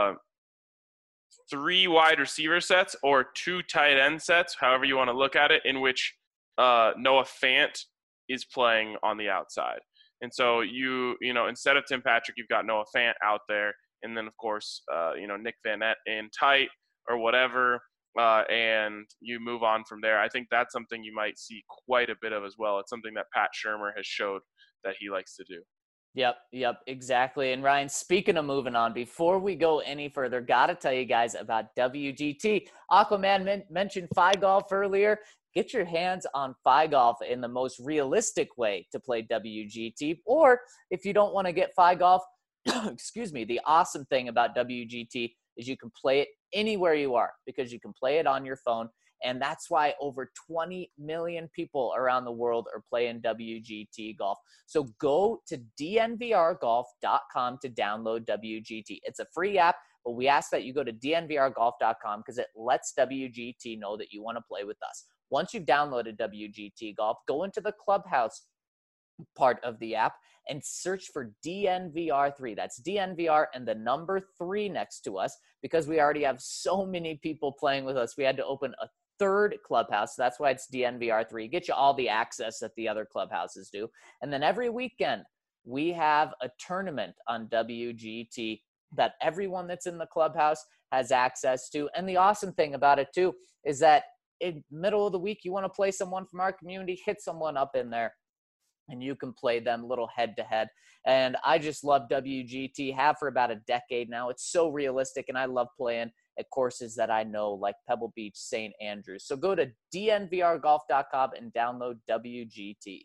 3 wide receiver sets or 2 tight end sets, however you want to look at it, in which Noah Fant is playing on the outside. And so you instead of Tim Patrick, you've got Noah Fant out there, and then of course Nick Vannett in tight or whatever, and you move on from there. I think that's something you might see quite a bit of as well. It's something that Pat Shurmur has showed that he likes to do. Yep, exactly. And Ryan, speaking of moving on, before we go any further, got to tell you guys about WGT. Aquaman mentioned FiGolf earlier. Get your hands on FiGolf in the most realistic way to play WGT. Or if you don't want to get FiGolf, excuse me, the awesome thing about WGT is you can play it anywhere you are because you can play it on your phone. And that's why over 20 million people around the world are playing WGT golf. So go to dnvrgolf.com to download WGT. It's a free app, but we ask that you go to dnvrgolf.com because it lets WGT know that you want to play with us. Once you've downloaded WGT Golf, go into the Clubhouse part of the app and search for DNVR3. That's DNVR and the number 3 next to us because we already have so many people playing with us. We had to open a 3rd clubhouse. So that's why it's DNVR3. Get you all the access that the other clubhouses do. And then every weekend, we have a tournament on WGT that everyone that's in the clubhouse has access to. And the awesome thing about it, too, is that in middle of the week, you want to play someone from our community, hit someone up in there, and you can play them a little head-to-head. And I just love WGT, have for about a decade now. It's so realistic, and I love playing at courses that I know, like Pebble Beach, St. Andrews. So go to dnvrgolf.com and download WGT.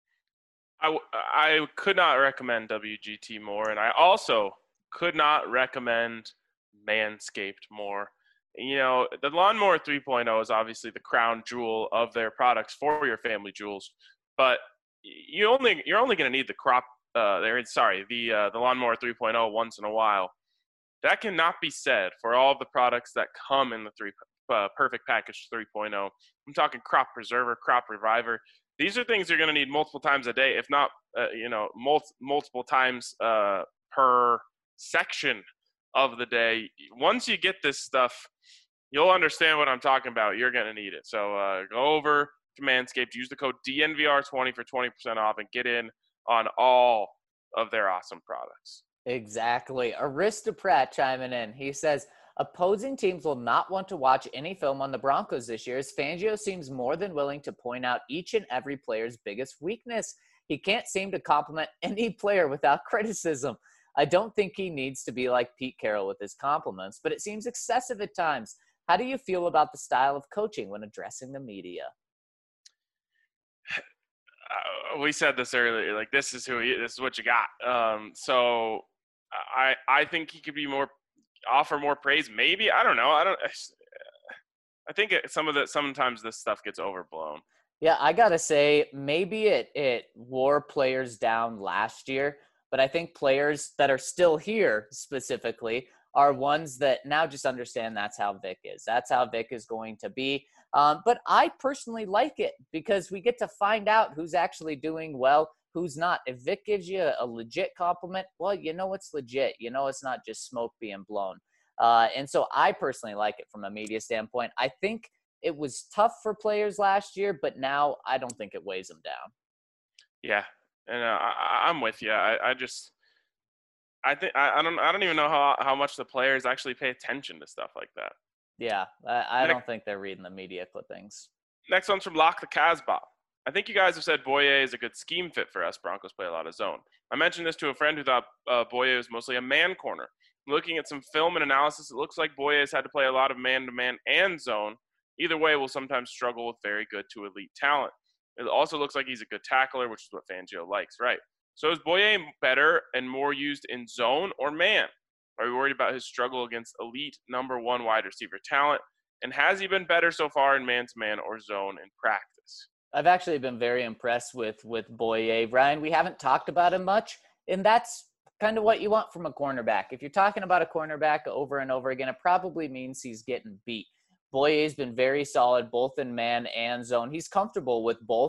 I could not recommend WGT more, and I also could not recommend Manscaped more. The Lawnmower 3.0 is obviously the crown jewel of their products for your family jewels, but you're only going to need the Lawnmower 3.0 once in a while. That cannot be said for all of the products that come in the Perfect Package 3.0. I'm talking Crop Preserver, Crop Reviver. These are things you're going to need multiple times a day, if not, multiple times per section of the day. Once you get this stuff, you'll understand what I'm talking about. You're going to need it. So go over to Manscaped, use the code DNVR20 for 20% off, and get in on all of their awesome products. Exactly. Aristocrat chiming in. He says, opposing teams will not want to watch any film on the Broncos this year, as Fangio seems more than willing to point out each and every player's biggest weakness. He can't seem to compliment any player without criticism. I don't think he needs to be like Pete Carroll with his compliments, but it seems excessive at times. How do you feel about the style of coaching when addressing the media? We said this earlier. Like, this is what you got. So I think he could be offer more praise. Maybe, I don't know. I think sometimes this stuff gets overblown. Yeah, I gotta say, maybe it wore players down last year, but I think players that are still here specifically are ones that now just understand that's how Vic is. That's how Vic is going to be. But I personally like it because we get to find out who's actually doing well, who's not. If Vic gives you a legit compliment, well, you know it's legit. You know it's not just smoke being blown. And so I personally like it from a media standpoint. I think it was tough for players last year, but now I don't think it weighs them down. Yeah, and I'm with you. I don't even know how much the players actually pay attention to stuff like that. Yeah, I don't think they're reading the media clippings. Next one's from Lock the Casbah. I think you guys have said Boye is a good scheme fit for us. Broncos play a lot of zone. I mentioned this to a friend who thought Boye was mostly a man corner. Looking at some film and analysis, it looks like Boye has had to play a lot of man-to-man and zone. Either way, will sometimes struggle with very good to elite talent. It also looks like he's a good tackler, which is what Fangio likes, right? So is Boye better and more used in zone or man? Are we worried about his struggle against elite number one wide receiver talent? And has he been better so far in man-to-man or zone in practice? I've actually been very impressed with Boye. Ryan, we haven't talked about him much, and that's kind of what you want from a cornerback. If you're talking about a cornerback over and over again, it probably means he's getting beat. Boye's been very solid both in man and zone. He's comfortable with both.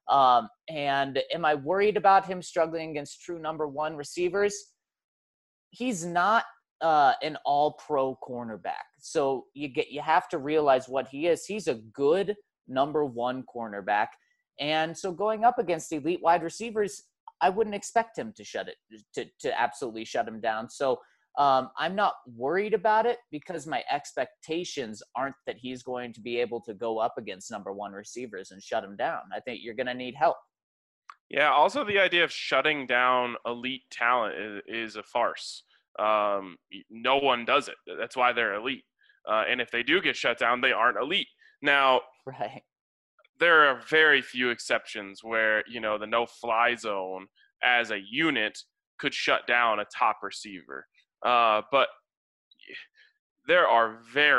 And am I worried about him struggling against true number one receivers? He's not an all-pro cornerback. So you have to realize what he is. He's a good number one cornerback. And so going up against elite wide receivers, I wouldn't expect him to absolutely shut him down. So I'm not worried about it because my expectations aren't that he's going to be able to go up against number one receivers and shut him down. I think you're going to need help. Yeah, also the idea of shutting down elite talent is a farce. No one does it. That's why they're elite. And if they do get shut down, they aren't elite. Now, right. There are very few exceptions where, the no-fly zone as a unit could shut down a top receiver. But there are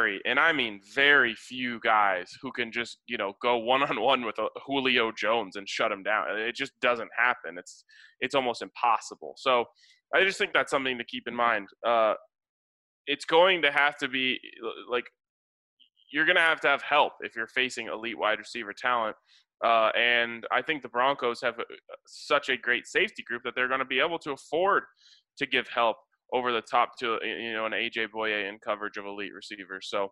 very few guys who can just, go one-on-one with a Julio Jones and shut him down. It just doesn't happen. It's almost impossible. So I just think that's something to keep in mind. It's going to have to be like, you're going to have help if you're facing elite wide receiver talent. And I think the Broncos have such a great safety group that they're going to be able to afford to give help over the top to, an AJ Boye in coverage of elite receivers. So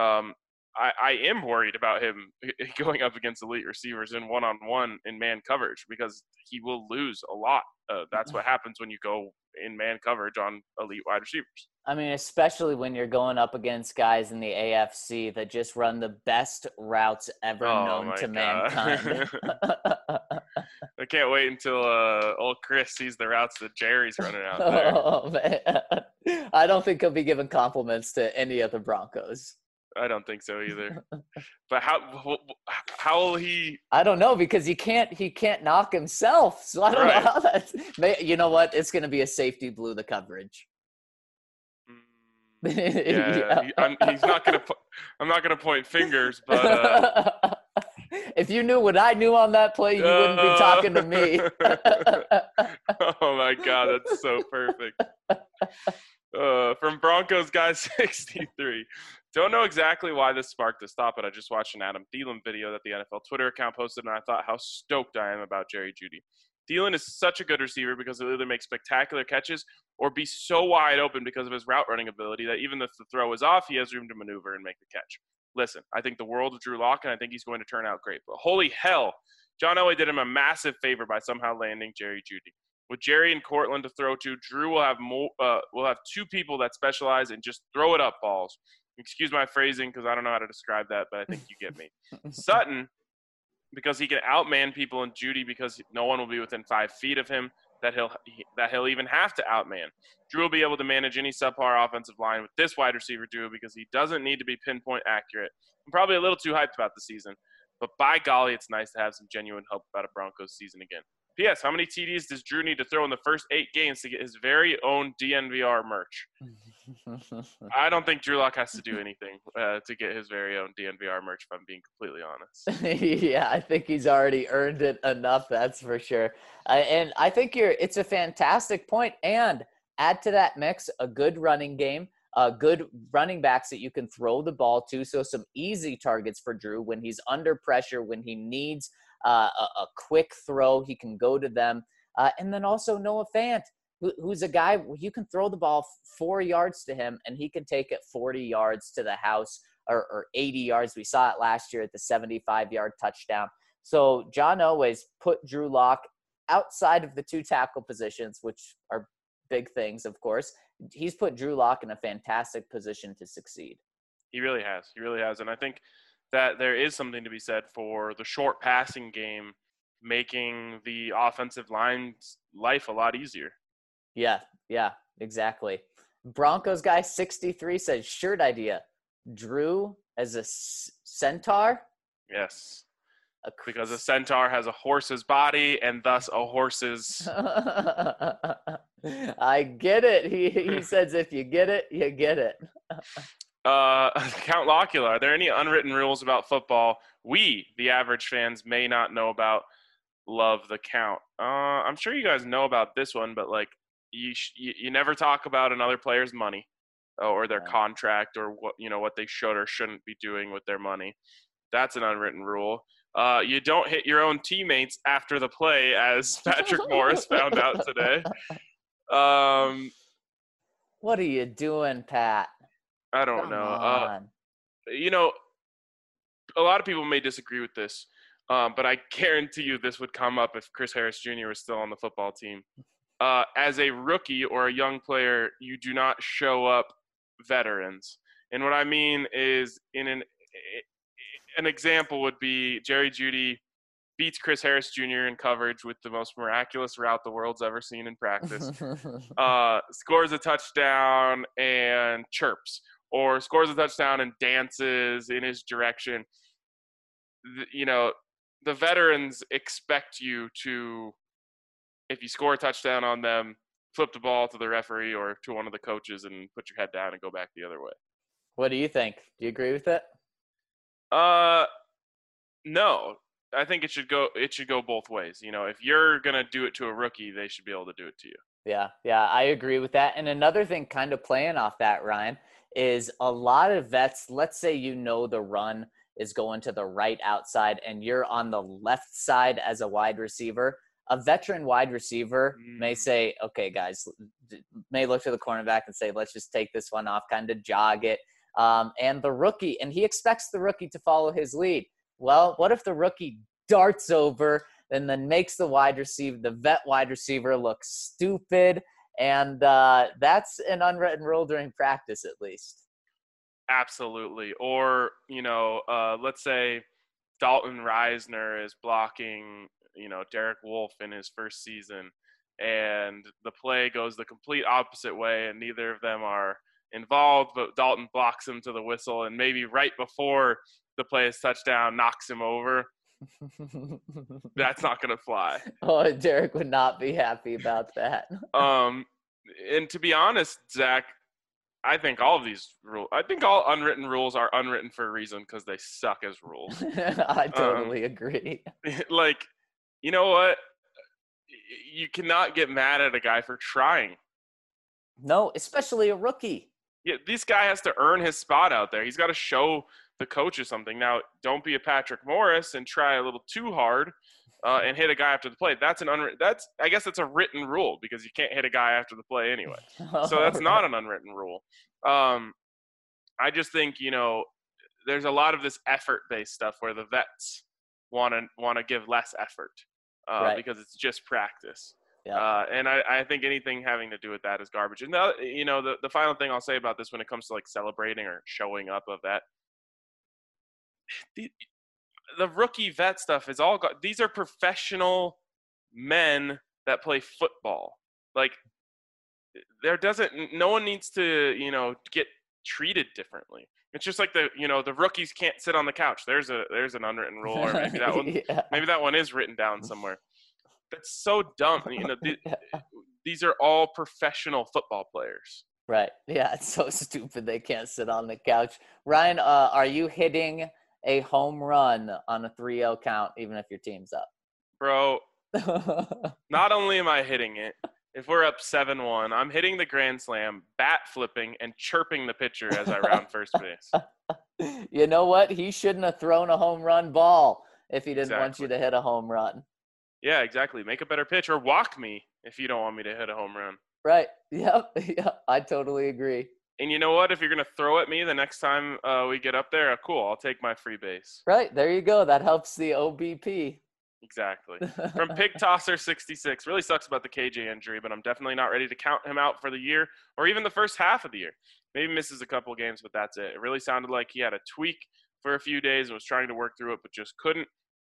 I am worried about him going up against elite receivers in one-on-one in man coverage because he will lose a lot. That's what happens when you go in man coverage on elite wide receivers. I mean, especially when you're going up against guys in the AFC that just run the best routes ever known to mankind. I can't wait until old Chris sees the routes that Jerry's running out there. Oh, man. I don't think he'll be giving compliments to any of the Broncos. I don't think so either. But how will he? I don't know because he can't knock himself. So I don't know how that's. You know what? It's going to be a safety blew the coverage. Yeah. He's not going to. I'm not going to point fingers, but if you knew what I knew on that play, you wouldn't be talking to me. Oh my God, that's so perfect. From Broncos guy 63. Don't know exactly why this sparked this thought, but I just watched an Adam Thielen video that the NFL Twitter account posted, and I thought how stoked I am about Jerry Jeudy. Thielen is such a good receiver because he'll either make spectacular catches or be so wide open because of his route running ability that even if the throw is off, he has room to maneuver and make the catch. Listen, I think the world of Drew Lock, and I think he's going to turn out great. But holy hell, John Elway did him a massive favor by somehow landing Jerry Jeudy. With Jerry and Cortland to throw to, Drew will have two people that specialize in just throw it up balls. Excuse my phrasing because I don't know how to describe that, but I think you get me. Sutton, because he can outman people, and Jeudy because no one will be within 5 feet of him that he'll even have to outman. Drew will be able to manage any subpar offensive line with this wide receiver duo because he doesn't need to be pinpoint accurate. I'm probably a little too hyped about the season, but by golly, it's nice to have some genuine hope about a Broncos season again. P.S. How many TDs does Drew need to throw in the first 8 games to get his very own DNVR merch? I don't think Drew Lock has to do anything to get his very own DNVR merch, if I'm being completely honest. Yeah, I think he's already earned it enough, that's for sure. And I think it's a fantastic point. And add to that mix a good running game, good running backs that you can throw the ball to. So some easy targets for Drew when he's under pressure, when he needs a quick throw, he can go to them. And then also Noah Fant, who's a guy you can throw the ball 4 yards to him and he can take it 40 yards to the house or 80 yards. We saw it last year at the 75-yard touchdown. So John Elway's put Drew Lock outside of the 2 tackle positions, which are big things, of course. He's put Drew Lock in a fantastic position to succeed. He really has. He really has. And I think that there is something to be said for the short passing game making the offensive line's life a lot easier. Yeah, exactly. Broncos guy 63 says, shirt idea. Drew as a centaur? Yes. Because a centaur has a horse's body and thus a horse's... I get it. He says if you get it, you get it. Count Locula, are there any unwritten rules about football we, the average fans, may not know about? Love the count. I'm sure you guys know about this one, but like you never talk about another player's money or their contract or what they should or shouldn't be doing with their money. That's an unwritten rule. You don't hit your own teammates after the play, as Patrick Morris found out today. What are you doing, Pat? I don't know. A lot of people may disagree with this, but I guarantee you this would come up if Chris Harris Jr. was still on the football team. As a rookie or a young player, you do not show up veterans. And what I mean is an example would be Jerry Jeudy beats Chris Harris Jr. in coverage with the most miraculous route the world's ever seen in practice, scores a touchdown and chirps, or scores a touchdown and dances in his direction. The veterans expect you to, if you score a touchdown on them, flip the ball to the referee or to one of the coaches and put your head down and go back the other way. What do you think? Do you agree with it? No. I think it should go both ways. If you're going to do it to a rookie, they should be able to do it to you. Yeah, I agree with that. And another thing kind of playing off that, Ryan, is a lot of vets, let's say the run is going to the right outside and you're on the left side as a wide receiver. A veteran wide receiver may say, okay, guys, may look to the cornerback and say, let's just take this one off, kind of jog it. And the rookie, and he expects the rookie to follow his lead. Well, what if the rookie darts over and then makes the vet wide receiver look stupid? And that's an unwritten rule during practice, at least. Absolutely. Or, let's say Dalton Reisner is blocking, Derek Wolfe in his first season, and the play goes the complete opposite way, and neither of them are involved, but Dalton blocks him to the whistle, and maybe right before the play is touchdown, knocks him over. That's not going to fly. Oh, Derek would not be happy about that. And to be honest, Zach, I think all unwritten rules are unwritten for a reason because they suck as rules. I totally agree. Like, you know what? You cannot get mad at a guy for trying. No, especially a rookie. Yeah, this guy has to earn his spot out there. He's got to show the coaches something. Now, don't be a Patrick Morris and try a little too hard and hit a guy after the play. I guess that's a written rule because you can't hit a guy after the play anyway. So that's not an unwritten rule. I just think, there's a lot of this effort-based stuff where the vets want to give less effort because it's just practice. Yeah. And I think anything having to do with that is garbage. And the final thing I'll say about this when it comes to like celebrating or showing up of that, the rookie vet stuff is all these are professional men that play football. Like no one needs to, get treated differently. It's just like the rookies can't sit on the couch. There's an unwritten rule, or maybe that one, maybe that one is written down somewhere. That's so dumb. These are all professional football players. Right. Yeah, it's so stupid they can't sit on the couch. Ryan, are you hitting a home run on a 3-0 count, even if your team's up? Bro, not only am I hitting it, if we're up 7-1, I'm hitting the grand slam, bat flipping, and chirping the pitcher as I round first base. You know what? He shouldn't have thrown a home run ball if he didn't want you to hit a home run. Yeah, exactly. Make a better pitch or walk me if you don't want me to hit a home run. Right. Yep. I totally agree. And you know what? If you're going to throw at me the next time we get up there, cool. I'll take my free base. Right. There you go. That helps the OBP. Exactly. From Pig Tosser 66. Really sucks about the KJ injury, but I'm definitely not ready to count him out for the year or even the first half of the year. Maybe misses a couple games, but that's it. It really sounded like he had a tweak for a few days and was trying to work through it, but just couldn't.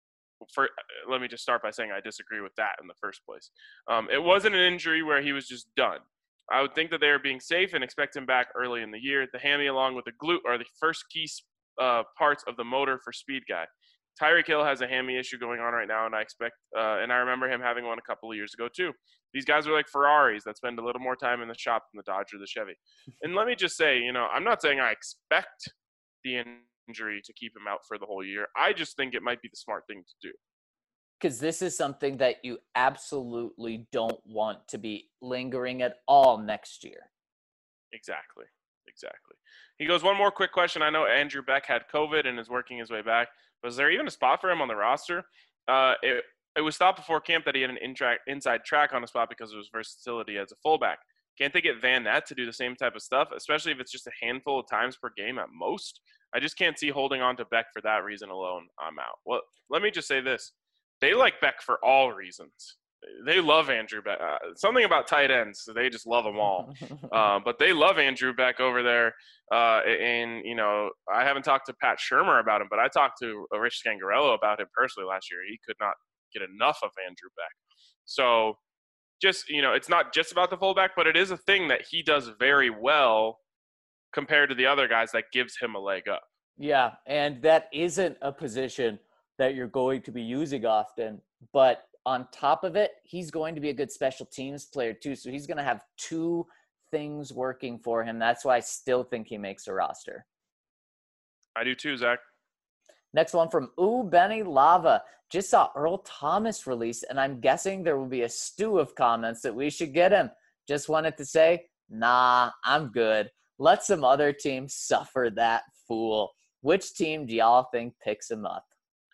Let me just start by saying I disagree with that in the first place. It wasn't an injury where he was just done. I would think that they are being safe and expect him back early in the year. The hammy along with the glute are the first key parts of the motor for speed guy. Tyreek Hill has a hammy issue going on right now, and I remember him having one a couple of years ago too. These guys are like Ferraris that spend a little more time in the shop than the Dodge or the Chevy. And let me just say, I'm not saying I expect the injury to keep him out for the whole year. I just think it might be the smart thing to do. Because this is something that you absolutely don't want to be lingering at all next year. Exactly. He goes, one more quick question. I know Andrew Beck had COVID and is working his way back. Was there even a spot for him on the roster? It was thought before camp that he had an inside track on the spot because of his versatility as a fullback. Can't they get Van Ness to do the same type of stuff, especially if it's just a handful of times per game at most? I just can't see holding on to Beck for that reason alone. I'm out. Well, let me just say this. They like Beck for all reasons. They love Andrew Beck. Something about tight ends, they just love them all. But they love Andrew Beck over there. And I haven't talked to Pat Shurmur about him, but I talked to Rich Scangarello about him personally last year. He could not get enough of Andrew Beck. So just, it's not just about the fullback, but it is a thing that he does very well compared to the other guys that gives him a leg up. Yeah, and that isn't a position that you're going to be using often, but on top of it, he's going to be a good special teams player too. So he's going to have two things working for him. That's why I still think he makes a roster. I do too, Zach. Next one from Benny Lava. Just saw Earl Thomas release, and I'm guessing there will be a stew of comments that we should get him. Just wanted to say, nah, I'm good. Let some other team suffer that fool. Which team do y'all think picks him up?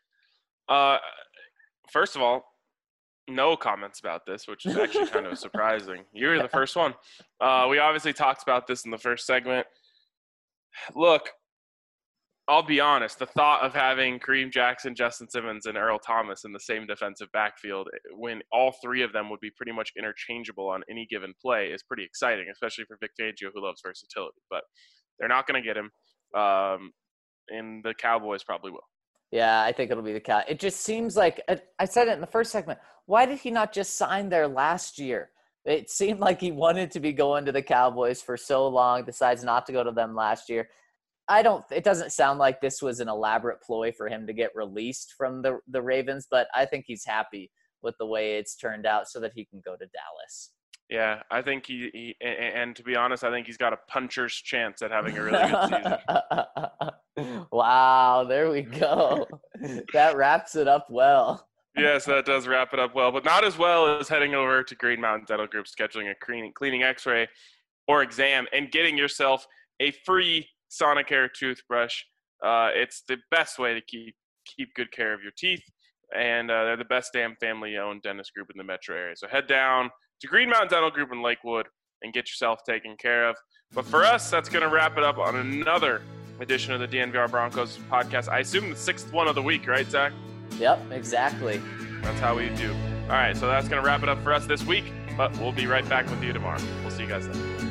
First of all, no comments about this, which is actually kind of surprising. You're the first one. We obviously talked about this in the first segment. Look, I'll be honest. The thought of having Kareem Jackson, Justin Simmons, and Earl Thomas in the same defensive backfield when all three of them would be pretty much interchangeable on any given play is pretty exciting, especially for Vic Fangio, who loves versatility. But they're not going to get him, and the Cowboys probably will. Yeah, I think it'll be the Cow. It just seems like I said it in the first segment. Why did he not just sign there last year? It seemed like he wanted to be going to the Cowboys for so long, decides not to go to them last year. It doesn't sound like this was an elaborate ploy for him to get released from the Ravens, but I think he's happy with the way it's turned out so that he can go to Dallas. Yeah, I think he and to be honest, I think he's got a puncher's chance at having a really good season. Wow, there we go. That wraps it up well. Yes, that does wrap it up well, but not as well as heading over to Green Mountain Dental Group, scheduling a cleaning x-ray or exam, and getting yourself a free Sonicare toothbrush. It's the best way to keep good care of your teeth, and they're the best damn family-owned dentist group in the metro area. So head down to Green Mountain Dental Group in Lakewood and get yourself taken care of. But for us, that's going to wrap it up on another edition of the DNVR Broncos podcast. I assume the 6th one of the week, right, Zach? Yep, exactly. That's how we do. All right, so that's going to wrap it up for us this week, but we'll be right back with you tomorrow. We'll see you guys then.